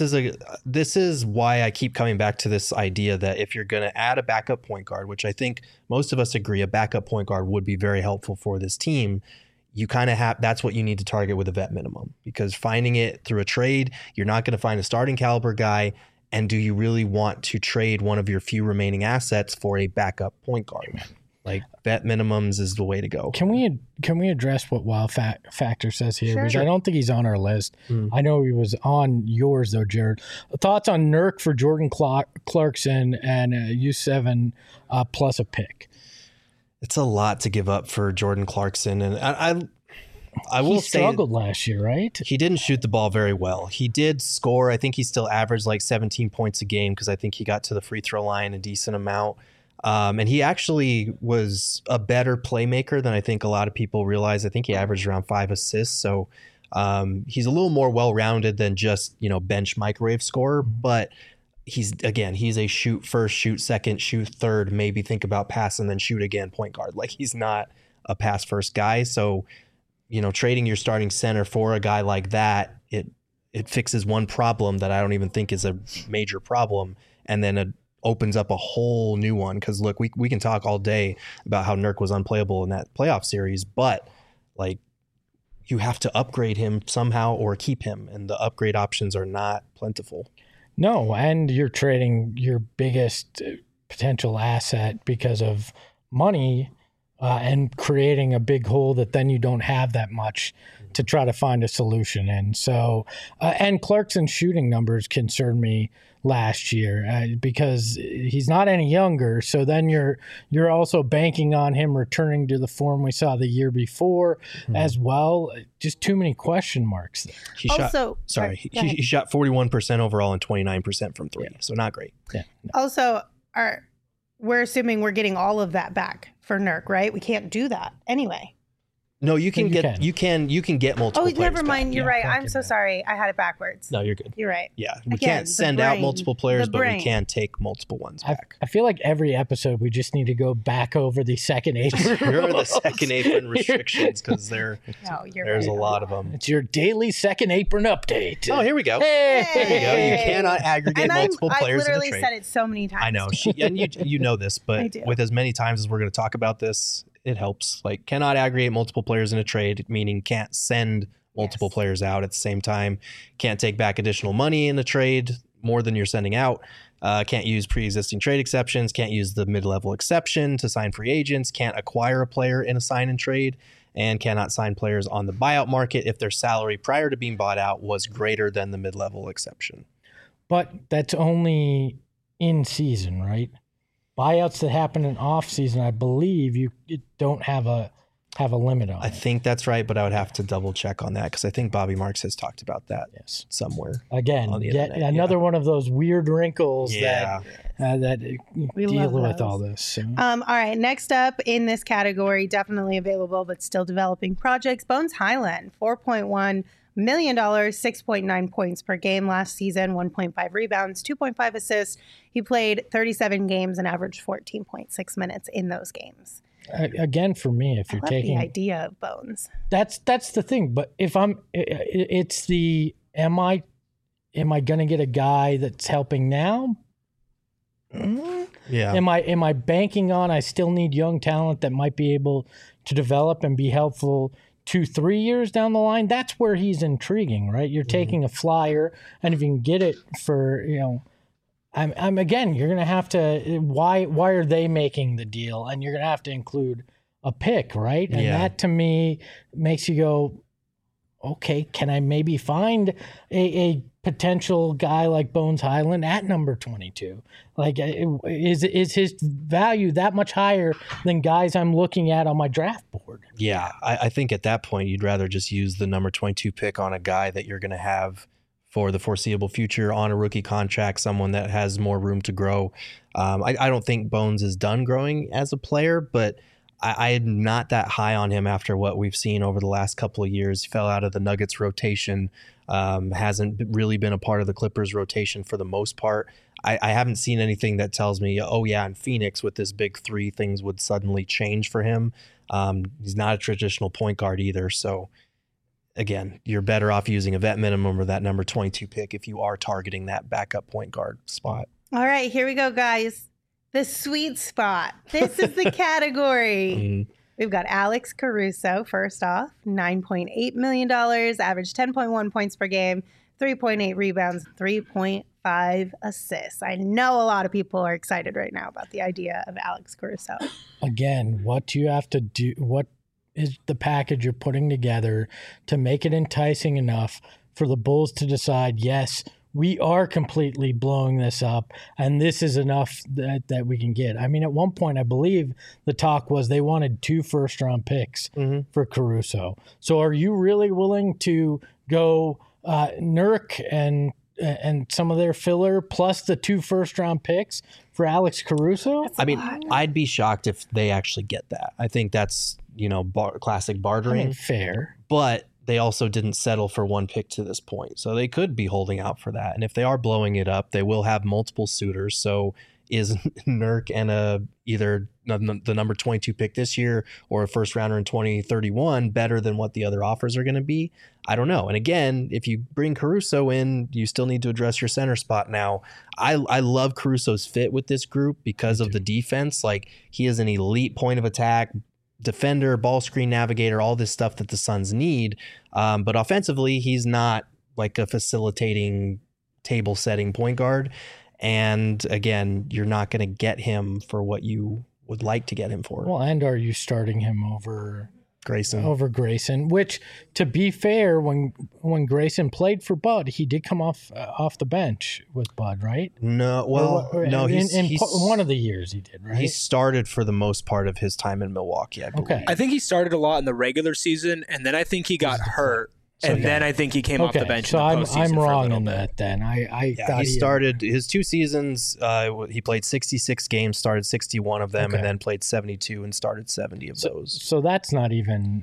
is why I keep coming back to this idea that if you're going to add a backup point guard, which I think most of us agree a backup point guard would be very helpful for this team, you kind of have, that's what you need to target with a vet minimum, because finding it through a trade, you're not going to find a starting caliber guy. And do you really want to trade one of your few remaining assets for a backup point guard? Like vet minimums is the way to go. Can we address what Wild Factor says here? Sure. Because I don't think he's on our list. I know he was on yours though, Jared. Thoughts on Nurk for Jordan Clarkson and U7 plus a pick? It's a lot to give up for Jordan Clarkson, and I will say he struggled last year, right? He didn't shoot the ball very well. He did score. I think he still averaged like 17 points a game because I think he got to the free throw line a decent amount. And he actually was a better playmaker than I think a lot of people realize. I think he averaged around 5 assists. So he's a little more well-rounded than just, bench microwave scorer. But he's a shoot first, shoot second, shoot third, maybe think about pass and then shoot again point guard. Like he's not a pass first guy. So trading your starting center for a guy like that, it fixes one problem that I don't even think is a major problem, and then it opens up a whole new one. Because look, we can talk all day about how Nurk was unplayable in that playoff series, but like, you have to upgrade him somehow or keep him, and the upgrade options are not plentiful. No, and you're trading your biggest potential asset because of money and creating a big hole that then you don't have that much to try to find a solution in. So, and Clarkson's shooting numbers concerned me last year because he's not any younger. So then you're also banking on him returning to the form we saw the year before as well. Just too many question marks there. He shot 41% overall and 29% from three. Yeah. So not great. Yeah. No. Also, we're assuming we're getting all of that back for Nurk, right? We can't do that anyway. No, you can get multiple players never mind. back. You're right. I'm so sorry. I had it backwards. No, you're good. You're right. Yeah, we can't send out multiple players, but we can take multiple ones back. I feel like every episode we just need to go back over the second apron. Here are the second apron restrictions because there's a lot of them. It's your daily second apron update. Oh, here we go. Hey. There you go. You cannot aggregate multiple players in a trade. I literally said it so many times. I know, and you know this, but with as many times as we're going to talk about this, it helps. Like, cannot aggregate multiple players in a trade, meaning can't send multiple players out at the same time. Can't take back additional money in a trade more than you're sending out. Can't use pre-existing trade exceptions. Can't use the mid-level exception to sign free agents. Can't acquire a player in a sign and trade. And cannot sign players on the buyout market if their salary prior to being bought out was greater than the mid-level exception. But that's only in season, right? Buyouts that happen in off season, I believe you don't have a limit on. I think that's right, but I would have to double check on that because I think Bobby Marks has talked about that somewhere. Again, on the yet another one of those weird wrinkles that deal with all this. So. All right, next up in this category, definitely available but still developing projects, Bones Hyland, $4.1 million, 6.9 points per game last season, 1.5 rebounds, 2.5 assists. He played 37 games and averaged 14.6 minutes in those games. Again, for me, if you're taking the idea of Bones, that's the thing. But if am I going to get a guy that's helping now? Yeah. Am I banking on I still need young talent that might be able to develop and be helpful 2-3 years down the line? That's where he's intriguing, right? You're taking a flyer, and if you can get it for, I'm again, you're going to have to, why are they making the deal? And you're going to have to include a pick, right? And that to me makes you go, okay, can I maybe find a potential guy like Bones Hyland at number 22? Like, is his value that much higher than guys I'm looking at on my draft board? Yeah, I think at that point you'd rather just use the number 22 pick on a guy that you're going to have for the foreseeable future on a rookie contract, someone that has more room to grow. I don't think Bones is done growing as a player, but I'm not that high on him after what we've seen over the last couple of years. He fell out of the Nuggets rotation, hasn't really been a part of the Clippers rotation for the most part. I haven't seen anything that tells me, in Phoenix with this big three, things would suddenly change for him. He's not a traditional point guard either. So again, you're better off using a vet minimum or that number 22 pick if you are targeting that backup point guard spot. All right, here we go, guys. The sweet spot. This is the category. We've got Alex Caruso, first off, $9.8 million, averaged 10.1 points per game, 3.8 rebounds, 3.5 assists. I know a lot of people are excited right now about the idea of Alex Caruso. Again, what do you have to do? What is the package you're putting together to make it enticing enough for the Bulls to decide, yes, we are completely blowing this up, and this is enough that we can get? I mean, at one point, I believe the talk was they wanted 2 first-round picks for Caruso. So are you really willing to go Nurk and some of their filler plus the 2 first-round picks for Alex Caruso? I mean, I'd be shocked if they actually get that. I think that's, classic bartering. I mean, fair. But they also didn't settle for 1 pick to this point. So they could be holding out for that. And if they are blowing it up, they will have multiple suitors. So is Nurk and either the number 22 pick this year or a first rounder in 2031 better than what the other offers are going to be? I don't know. And again, if you bring Caruso in, you still need to address your center spot now. I love Caruso's fit with this group because of the defense. Like, he is an elite point of attack defender, ball screen navigator, all this stuff that the Suns need. But offensively, he's not like a facilitating, table setting point guard. And again, you're not going to get him for what you would like to get him for. Well, and are you starting him over Grayson? Over Grayson, which, to be fair, when Grayson played for Bud, he did come off the bench with Bud, right? No, well, no, he's one of the years he did, right? He started for the most part of his time in Milwaukee, I believe. Okay. I think he started a lot in the regular season, and then I think he got hurt. And then I think he came off the bench. So in the postseason I'm wrong for a in bit. that. Then I thought he started his 2 seasons. He played 66 games, started 61 of them, and then played 72 and started 70 of those. So that's not even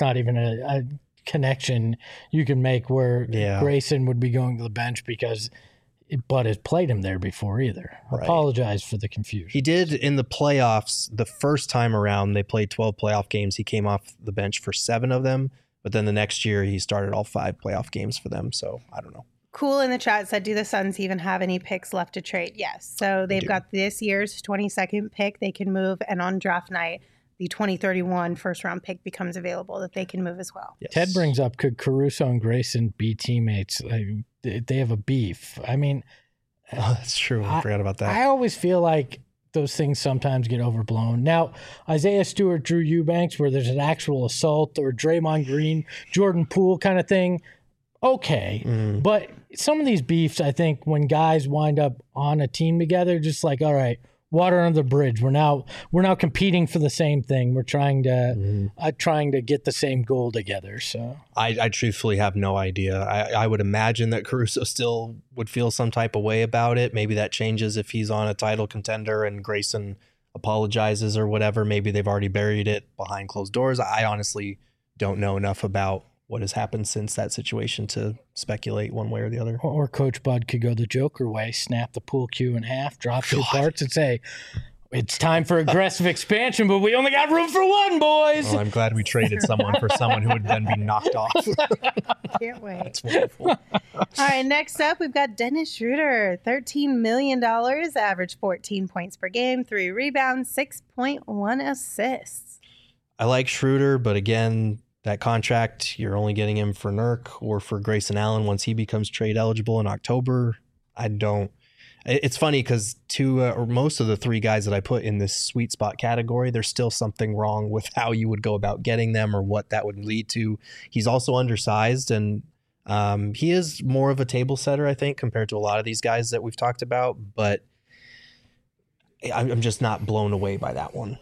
a connection you can make where Grayson would be going to the bench because Bud has played him there before either. Right. Apologize for the confusion. He did in the playoffs the first time around. They played 12 playoff games. He came off the bench for 7 of them. But then the next year, he started all 5 playoff games for them. So I don't know. Cool in the chat said, do the Suns even have any picks left to trade? Yes. So they've got this year's 22nd pick they can move. And on draft night, the 2031 first round pick becomes available that they can move as well. Yes. Ted brings up, could Caruso and Grayson be teammates? They have a beef. I mean. That's true. I forgot about that. I always feel like those things sometimes get overblown. Now, Isaiah Stewart, Drew Eubanks, where there's an actual assault, or Draymond Green, Jordan Poole kind of thing, okay. But some of these beefs, I think, when guys wind up on a team together, just like, all right, water under the bridge. We're now competing for the same thing. We're trying to get the same goal together. So I truthfully have no idea. I would imagine that Caruso still would feel some type of way about it. Maybe that changes if he's on a title contender and Grayson apologizes or whatever. Maybe they've already buried it behind closed doors. I honestly don't know enough about what has happened since that situation to speculate one way or the other. Or Coach Bud could go the Joker way, snap the pool cue in half, drop 2 parts, and say, it's time for aggressive expansion, but we only got room for 1, boys. Well, I'm glad we traded someone for someone who would then be knocked off. Can't wait. That's wonderful. All right, next up, we've got Dennis Schroeder, $13 million, average 14 points per game, 3 rebounds, 6.1 assists. I like Schroeder, but again, that contract, you're only getting him for Nurk or for Grayson Allen once he becomes trade eligible in October. It's funny because or most of the 3 guys that I put in this sweet spot category, there's still something wrong with how you would go about getting them or what that would lead to. He's also undersized, and he is more of a table setter, I think, compared to a lot of these guys that we've talked about. But I'm just not blown away by that one.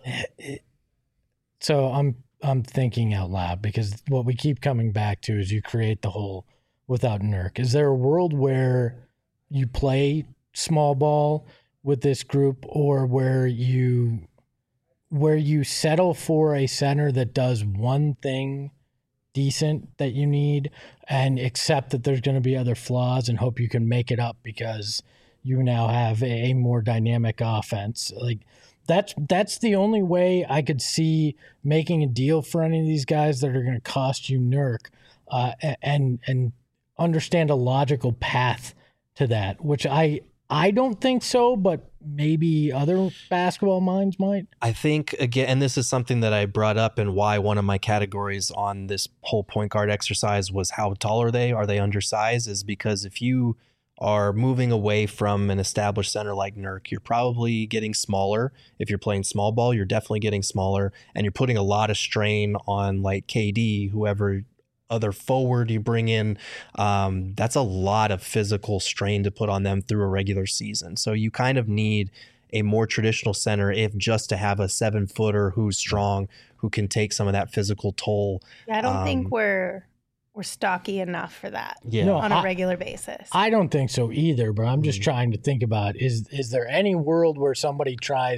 So I'm thinking out loud because what we keep coming back to is you create the hole without Nurk. Is there a world where you play small ball with this group, or where you settle for a center that does one thing decent that you need and accept that there's going to be other flaws and hope you can make it up because you now have a more dynamic offense? Like, that's the only way I could see making a deal for any of these guys that are going to cost you Nurk, and understand a logical path to that, which I don't think so, but maybe other basketball minds might. I think, again, and this is something that I brought up and why one of my categories on this whole point guard exercise was how tall are they? Are they undersized? Is because if you are moving away from an established center like Nurk, you're probably getting smaller. If you're playing small ball, you're definitely getting smaller, and you're putting a lot of strain on like KD, whoever other forward you bring in. That's a lot of physical strain to put on them through a regular season. So you kind of need a more traditional center, if just to have a 7-footer who's strong, who can take some of that physical toll. Yeah, I don't think we're stocky enough for that on a regular basis. I don't think so either, but I'm just trying to think about, is there any world where somebody tries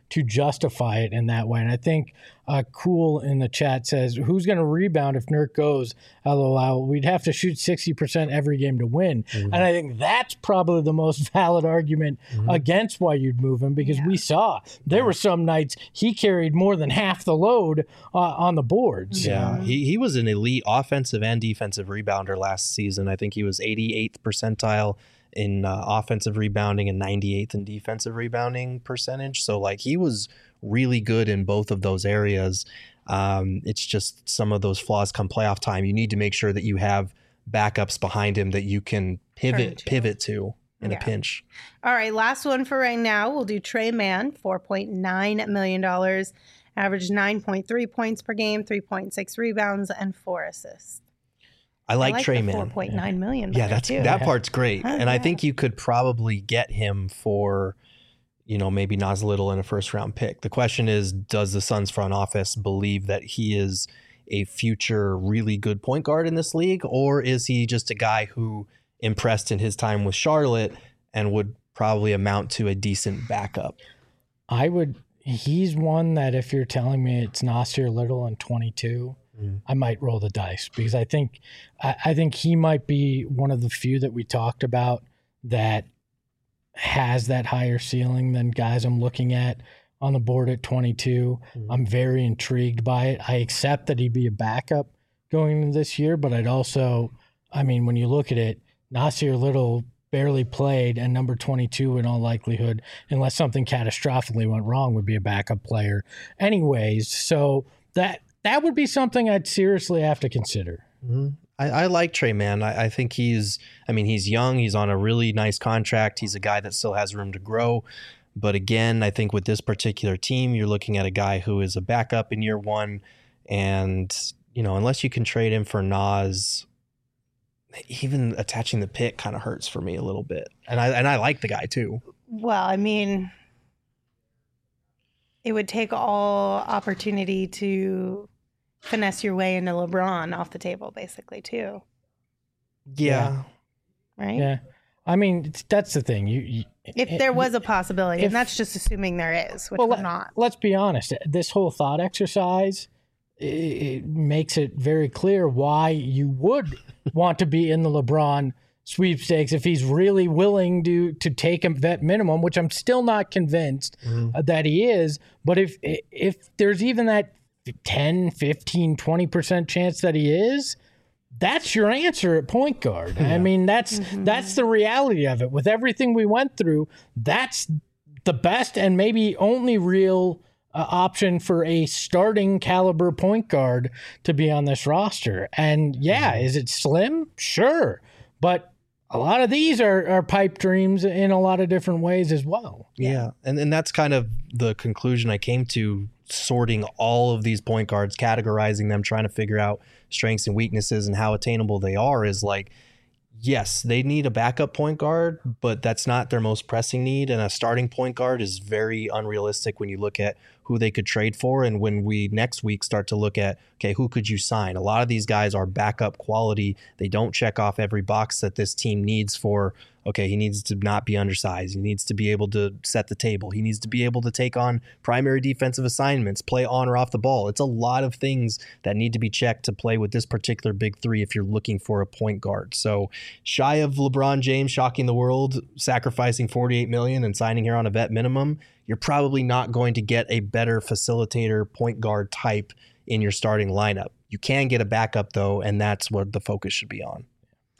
to justify it in that way. And I think Cool in the chat says, who's going to rebound if Nurk goes? LOL. We'd have to shoot 60% every game to win. And I think that's probably the most valid argument against why you'd move him, because we saw there were some nights he carried more than half the load on the boards. Yeah, he was an elite offensive and defensive rebounder last season. I think he was 88th percentile in offensive rebounding and 98th in defensive rebounding percentage. So like he was really good in both of those areas. It's just some of those flaws come playoff time. You need to make sure that you have backups behind him that you can pivot to in a pinch. All right, last one for right now. We'll do Trey Mann, $4.9 million, averaged 9.3 points per game, 3.6 rebounds, and 4 assists. I like Trey Mann. $4.9 million. Yeah, that part's great. And I think you could probably get him for, maybe Nas Little in a first round pick. The question is, does the Suns front office believe that he is a future really good point guard in this league, or is he just a guy who impressed in his time with Charlotte and would probably amount to a decent backup? He's one that if you're telling me it's Nasir Little in 22, I might roll the dice, because I think he might be one of the few that we talked about that has that higher ceiling than guys I'm looking at on the board at 22. I'm very intrigued by it. I accept that he'd be a backup going into this year, but I'd also, when you look at it, Nasir Little barely played, and number 22 in all likelihood, unless something catastrophically went wrong, would be a backup player anyways. So that would be something I'd seriously have to consider. I like Trey Mann. I think he's young. He's on a really nice contract. He's a guy that still has room to grow. But again, I think with this particular team, you're looking at a guy who is a backup in year one. And, unless you can trade him for Nas, even attaching the pick kind of hurts for me a little bit. And I like the guy too. Well, it would take all opportunity to finesse your way into LeBron off the table, basically, too. Yeah. Right? Yeah. That's the thing. If there was a possibility, and that's just assuming there is, which we're not. Let's be honest. This whole thought exercise, it makes it very clear why you would want to be in the LeBron sweepstakes if he's really willing to take a vet minimum, which I'm still not convinced that he is. But if there's even that 10, 15, 20% chance that he is, that's your answer at point guard. Yeah. That's the reality of it. With everything we went through, that's the best and maybe only real option for a starting caliber point guard to be on this roster. And is it slim? Sure. But a lot of these are pipe dreams in a lot of different ways as well. Yeah. And that's kind of the conclusion I came to, sorting all of these point guards, categorizing them, trying to figure out strengths and weaknesses and how attainable they are, is like, yes, they need a backup point guard, but that's not their most pressing need. And a starting point guard is very unrealistic when you look at who they could trade for. And when we next week start to look at, okay, who could you sign? A lot of these guys are backup quality. They don't check off every box that this team needs for, okay, he needs to not be undersized. He needs to be able to set the table. He needs to be able to take on primary defensive assignments, play on or off the ball. It's a lot of things that need to be checked to play with this particular big three if you're looking for a point guard. So shy of LeBron James shocking the world, sacrificing $48 million and signing here on a vet minimum, you're probably not going to get a better facilitator point guard type in your starting lineup. You can get a backup though, and that's what the focus should be on.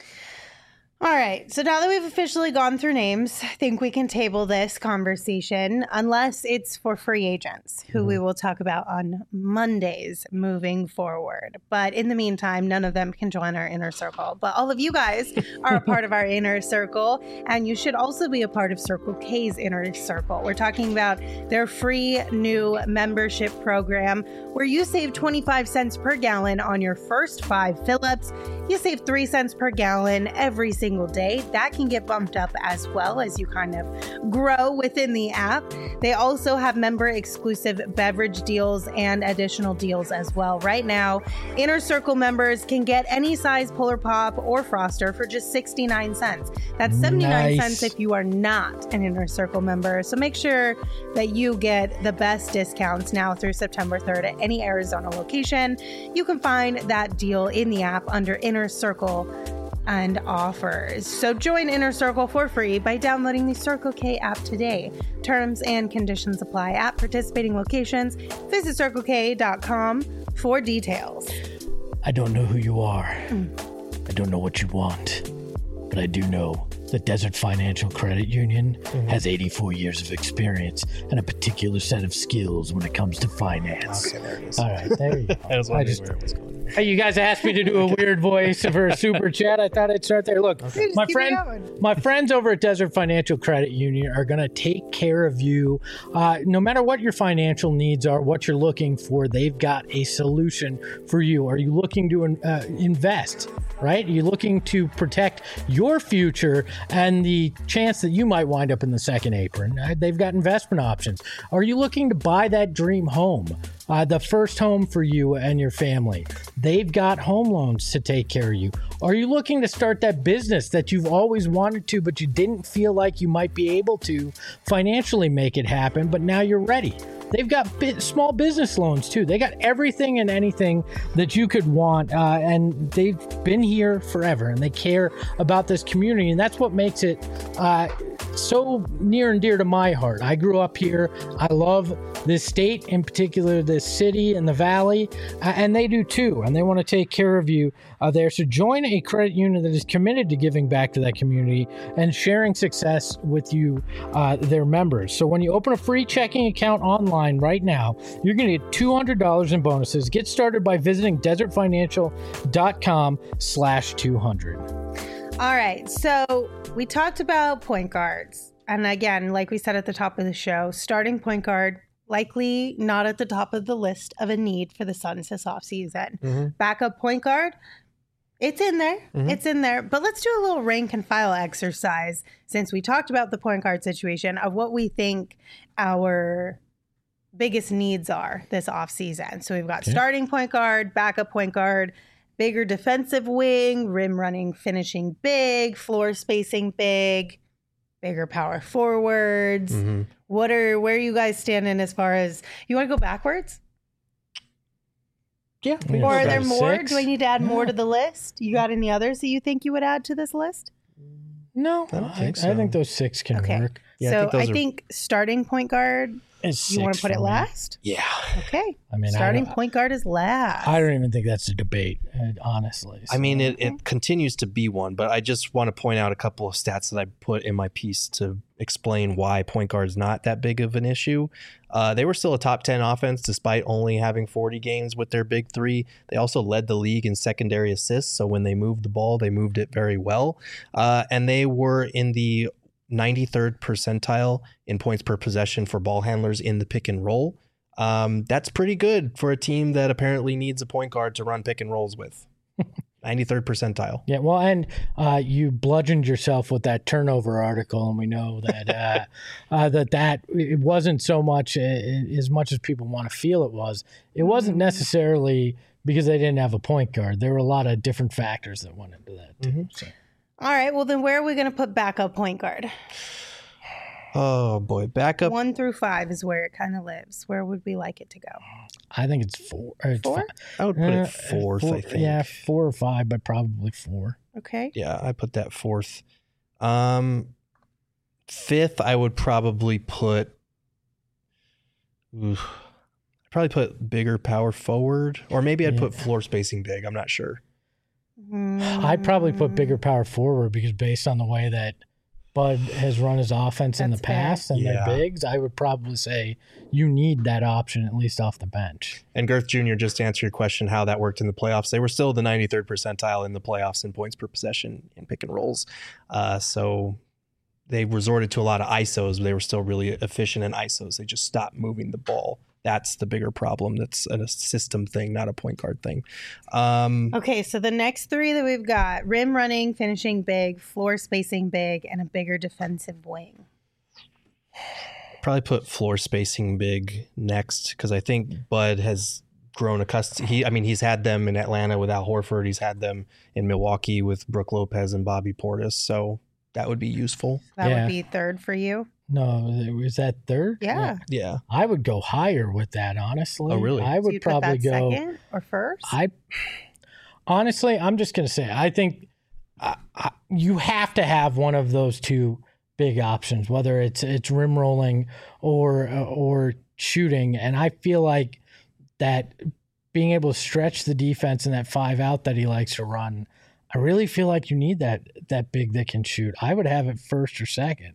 All right. So now that we've officially gone through names, I think we can table this conversation, unless it's for free agents, who we will talk about on Mondays moving forward. But in the meantime, none of them can join our inner circle. But all of you guys are a part of our inner circle, and you should also be a part of Circle K's inner circle. We're talking about their free new membership program where you save 25 cents per gallon on your first 5 fill-ups. you save 3 cents per gallon every single day. That can get bumped up as well as you kind of grow within the app. They also have member exclusive beverage deals and additional deals as well. Right now, Inner Circle members can get any size Polar Pop or Froster for just 69 cents. That's 79 cents if you are not an Inner Circle member. So make sure that you get the best discounts now through September 3rd at any Arizona location. You can find that deal in the app under Inner Circle and offers. So join Inner Circle for free by downloading the Circle K app today. Terms and conditions apply at participating locations. Visit CircleK.com for details. I don't know who you are. I don't know what you want. But I do know the Desert Financial Credit Union has 84 years of experience and a particular set of skills when it comes to finance. Okay, there it is. All right, there you go. I was wondering where it was going. Hey, you guys asked me to do a weird voice for a super chat. I thought I'd start there. Look, Just my keep friend, it going. my friends over at Desert Financial Credit Union are going to take care of you. No matter what your financial needs are, what you're looking for, they've got a solution for you. Are you looking to invest? Right? Are you looking to protect your future and the chance that you might wind up in the second apron? They've got investment options. Are you looking to buy that dream home? The first home for you and your family. They've got home loans to take care of you. Are you looking to start that business that you've always wanted to, but you didn't feel like you might be able to financially make it happen, but now you're ready? They've got small business loans too. They got everything and anything that you could want, and they've been here forever, and they care about this community, and that's what makes it so near and dear to my heart. I grew up here. I love this state, in particular this city and the valley, and they do too, and they want to take care of you there. So join a credit union that is committed to giving back to that community and sharing success with you, their members. So when you open a free checking account online right now, you're going to get $200 in bonuses. Get started by visiting desertfinancial.com/200. All right, so we talked about point guards. And again, like we said at the top of the show, starting point guard, likely not at the top of the list of a need for the Suns this offseason. Backup point guard, it's in there. It's in there. But let's do a little rank and file exercise since we talked about the point guard situation of what we think our biggest needs are this offseason. So we've got starting point guard, backup point guard, bigger defensive wing, rim running, finishing big, floor spacing big, bigger power forwards. Where are you guys standing as far as, you want to go backwards? Yeah. Or are there more? Do I need to add more to the list? You got any others that you think you would add to this list? No, I don't think so. I think those six can work. Yeah, so I I think think starting point guard, you want to put it last? Yeah. Okay. I mean, starting point guard is last. I don't even think that's a debate, honestly. I mean, it continues to be one, but I just want to point out a couple of stats that I put in my piece to explain why point guard is not that big of an issue. They were still a top 10 offense despite only having 40 games with their big three. They also led the league in secondary assists. So when they moved the ball, they moved it very well. And they were in the 93rd percentile in points per possession for ball handlers in the pick and roll. That's pretty good for a team that apparently needs a point guard to run pick and rolls with. 93rd percentile. Yeah, well, and you bludgeoned yourself with that turnover article, and we know that that it wasn't so much as much as people want to feel it was. It wasn't necessarily because they didn't have a point guard. There were a lot of different factors that went into that too. So. All right. Well, then where are we going to put backup point guard? Oh boy, backup 1 through 5 is where it kind of lives. Where would we like it to go? I think it's 4. It's 4? I would put it fourth, I think. Yeah, 4 or 5, but probably 4. Okay. Yeah, I put that fourth. Fifth, I would probably put. I'd probably put bigger power forward, or maybe I'd put floor spacing big. I'm not sure. I'd probably put bigger power forward because based on the way that Bud has run his offense in the past and their bigs, I would probably say you need that option at least off the bench. And Girth Jr., just to answer your question, how that worked in the playoffs, they were still the 93rd percentile in the playoffs in points per possession in pick and rolls. So they resorted to a lot of ISOs, but they were still really efficient in ISOs. They just stopped moving the ball That's the bigger problem. That's a system thing, not a point guard thing. Okay, so the next three that we've got: rim running, finishing big, floor spacing big, and a bigger defensive wing. Probably put floor spacing big next, because I think Bud has grown accustomed. He's had them in Atlanta with Al Horford. He's had them in Milwaukee with Brook Lopez and Bobby Portis. So that would be useful. That would be third for you. No, is that third? Yeah. Yeah. I would go higher with that, honestly. Oh, really? I would probably go second or first. Honestly, I'm just going to say, I think you have to have one of those two big options, whether it's rim rolling or shooting. And I feel like that being able to stretch the defense in that 5 out that he likes to run, I really feel like you need that big that can shoot. I would have it first or second.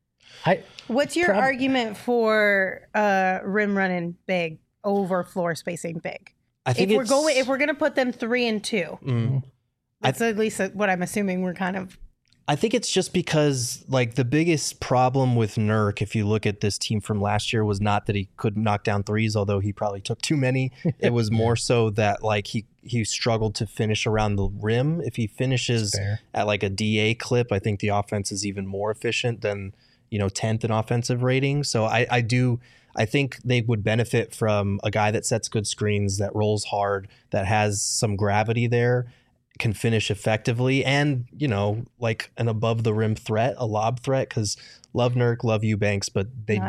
What's your argument for rim running big over floor spacing big? I think if we're gonna put them 3 and 2, that's at least what I'm assuming we're kind of. I think it's just because like the biggest problem with Nurk, if you look at this team from last year, was not that he couldn't knock down threes, although he probably took too many. It was more so that like he struggled to finish around the rim. If he finishes at like a DA clip, I think the offense is even more efficient than 10th in offensive rating. So I think they would benefit from a guy that sets good screens, that rolls hard, that has some gravity there, can finish effectively, and like an above the rim threat, a lob threat, because love Nurk, love Eubanks, but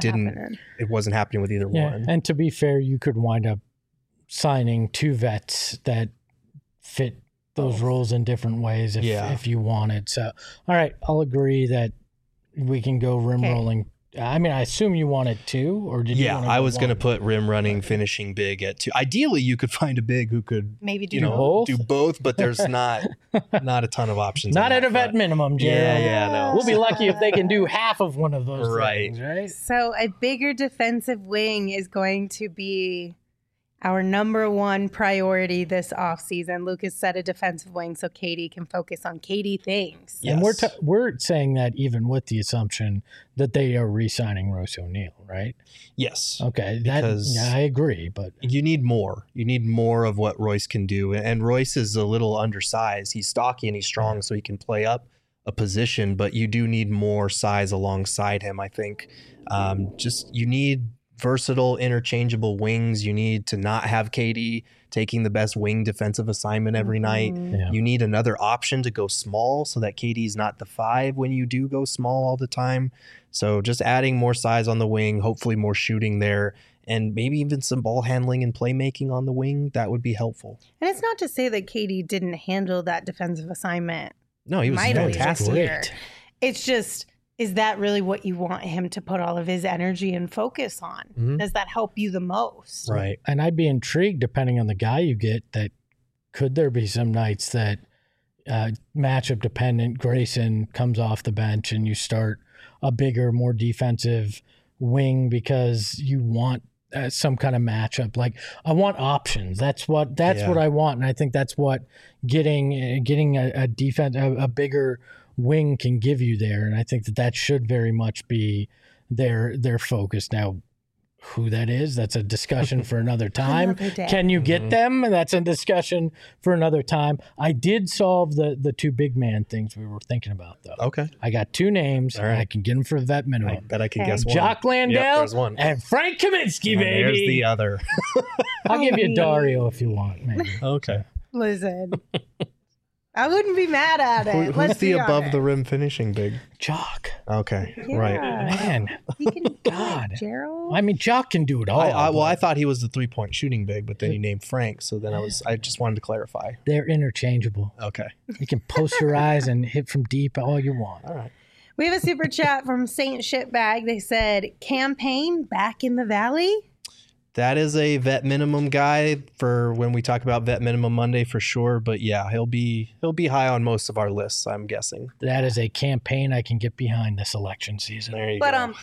it wasn't happening with either one. And to be fair, you could wind up signing 2 vets that fit those roles in different ways if you wanted. So all right, I'll agree that we can go rim rolling. I mean, I assume you wanted 2, or did you? Yeah, I was going to put rim running, finishing big at 2. Ideally, you could find a big who could maybe do both, but there's not a ton of options. Not at a vet minimum, Gerald. Yeah, no. We'll be lucky if they can do half of one of those things, right? So a bigger defensive wing is going to be our number one priority this offseason. Lucas said a defensive wing so KD can focus on KD things. Yes. And we're saying that even with the assumption that they are re-signing Royce O'Neal, right? Yes. Okay. I agree, but you need more. You need more of what Royce can do. And Royce is a little undersized. He's stocky and he's strong, so he can play up a position, but you do need more size alongside him, I think. You need versatile, interchangeable wings. You need to not have KD taking the best wing defensive assignment every night. Yeah. You need another option to go small so that KD's not the 5 when you do go small all the time. So just adding more size on the wing, hopefully more shooting there, and maybe even some ball handling and playmaking on the wing, that would be helpful. And it's not to say that KD didn't handle that defensive assignment. No, he was fantastic. It's just, is that really what you want him to put all of his energy and focus on? Mm-hmm. Does that help you the most? Right. And I'd be intrigued, depending on the guy you get, that could there be some nights that matchup dependent, Grayson comes off the bench and you start a bigger, more defensive wing because you want some kind of matchup. Like, I want options. That's what I want. And I think that's what getting a defense, a bigger wing can give you there. And I think that should very much be their focus. Now, who that is, that's a discussion for another time. Can you get them? That's a discussion for another time. I did solve the 2 big man things we were thinking about, though. Okay. I got 2 names. All right. I can get them for the vet minimum. I bet I can guess one. Jock Landale, there's one. and Frank Kaminsky, baby. There's the other. I'll give you Dario if you want, maybe. Okay. Listen. I wouldn't be mad at it. Who's the above the rim finishing big? Jock. Okay, yeah. right. Man, he can do it, Gerald. I mean, Jock can do it all. I thought he was the 3-point shooting big, but then you named Frank, so then I just wanted to clarify. They're interchangeable. Okay. You can posterize and hit from deep all you want. All right. We have a super chat from Saint Shitbag. They said, campaign back in the Valley. That is a vet minimum guy for when we talk about vet minimum Monday for sure. But yeah, he'll be high on most of our lists, I'm guessing. That is a campaign I can get behind this election season. There you go. All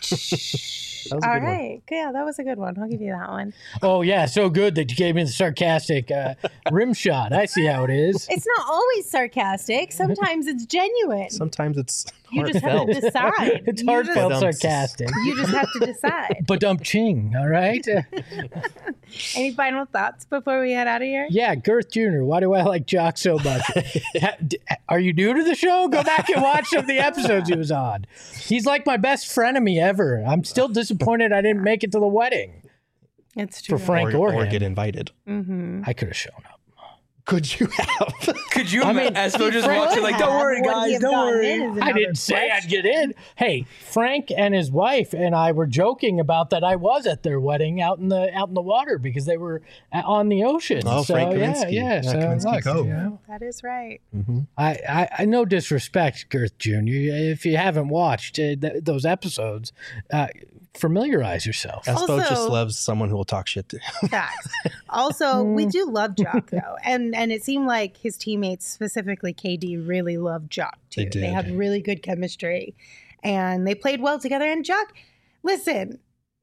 right. Yeah, that was a good one. I'll give you that one. Oh, yeah. So good that you gave me the sarcastic rim shot. I see how it is. It's not always sarcastic. Sometimes it's genuine. Sometimes it's You just have to decide. It's You heartfelt just- sarcastic. You just have to decide. But ching, all right? Any final thoughts before we head out of here? Yeah, Girth Jr., why do I like Jock so much? Are you new to the show? Go back and watch some of the episodes he was on. He's like my best frenemy ever. I'm still disappointed I didn't make it to the wedding It's true. for Frank or or him. get invited. I could have shown up. Could you have? Could you I imagine mean, Espo just Frank watching like, don't had. worry, Would he guys, have don't gotten worry. in is I another didn't say I'd question. get in. Hey, Frank and his wife and I were joking about that I was at their wedding out in the water because they were on the ocean. Oh, so, Frank yeah, Kaminsky. yeah. So Kaminsky look, Cove. you know, That is right. I no disrespect, Girth Jr. If you haven't watched those episodes, familiarize yourself. Espo Also- just loves someone who will talk shit to him. Facts. Also, we do love Jock though, and it seemed like his teammates, specifically KD, really loved Jock too. They did. had really good chemistry, and they played well together. And Jock, listen,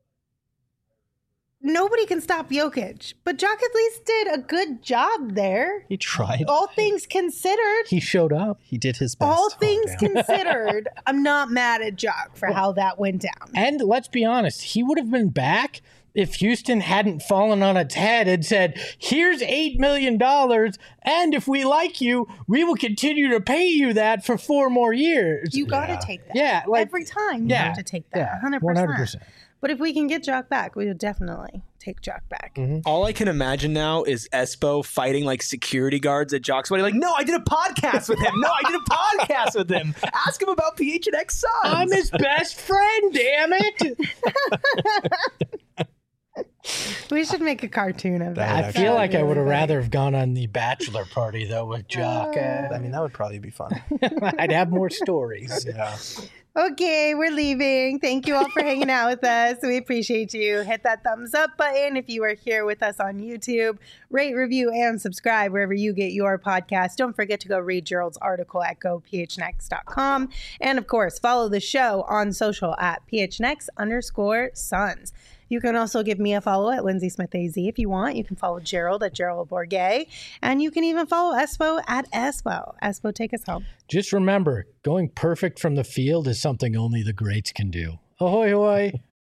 nobody can stop Jokic, but Jock at least did a good job there. He tried. All things considered. He showed up. He did his best. All things considered, I'm not mad at Jock for how that went down. And let's be honest, he would have been back if Houston hadn't fallen on its head and said, here's $8 million, and if we like you, we will continue to pay you that for 4 more years. You got to take that. Yeah, like- every time you Yeah, have to take that. yeah, 100%. 100%. But if we can get Jock back, we will definitely take Jock back. All I can imagine now is Espo fighting like security guards at Jock's wedding. Like, no, I did a podcast with him. No, I did a podcast with him. Ask him about PHNX Suns. I'm his best friend, damn it. We should make a cartoon of that. That would I actually feel be like I really would have funny. rather have gone on the bachelor party, though, with Jock. I mean, that would probably be fun. I'd have more stories. Yeah. Okay, we're leaving. Thank you all for hanging out with us. We appreciate you. Hit that thumbs up button if you are here with us on YouTube. Rate, review, and subscribe wherever you get your podcast. Don't forget to go read Gerald's article at gophnx.com. And of course, follow the show on social at phnx_suns. You can also give me a follow at Lindsay Smith AZ if you want. You can follow Gerald at Gerald Bourget. And you can even follow Espo at Espo. Espo, take us home. Just remember, going perfect from the field is something only the greats can do. Ahoy, hoy.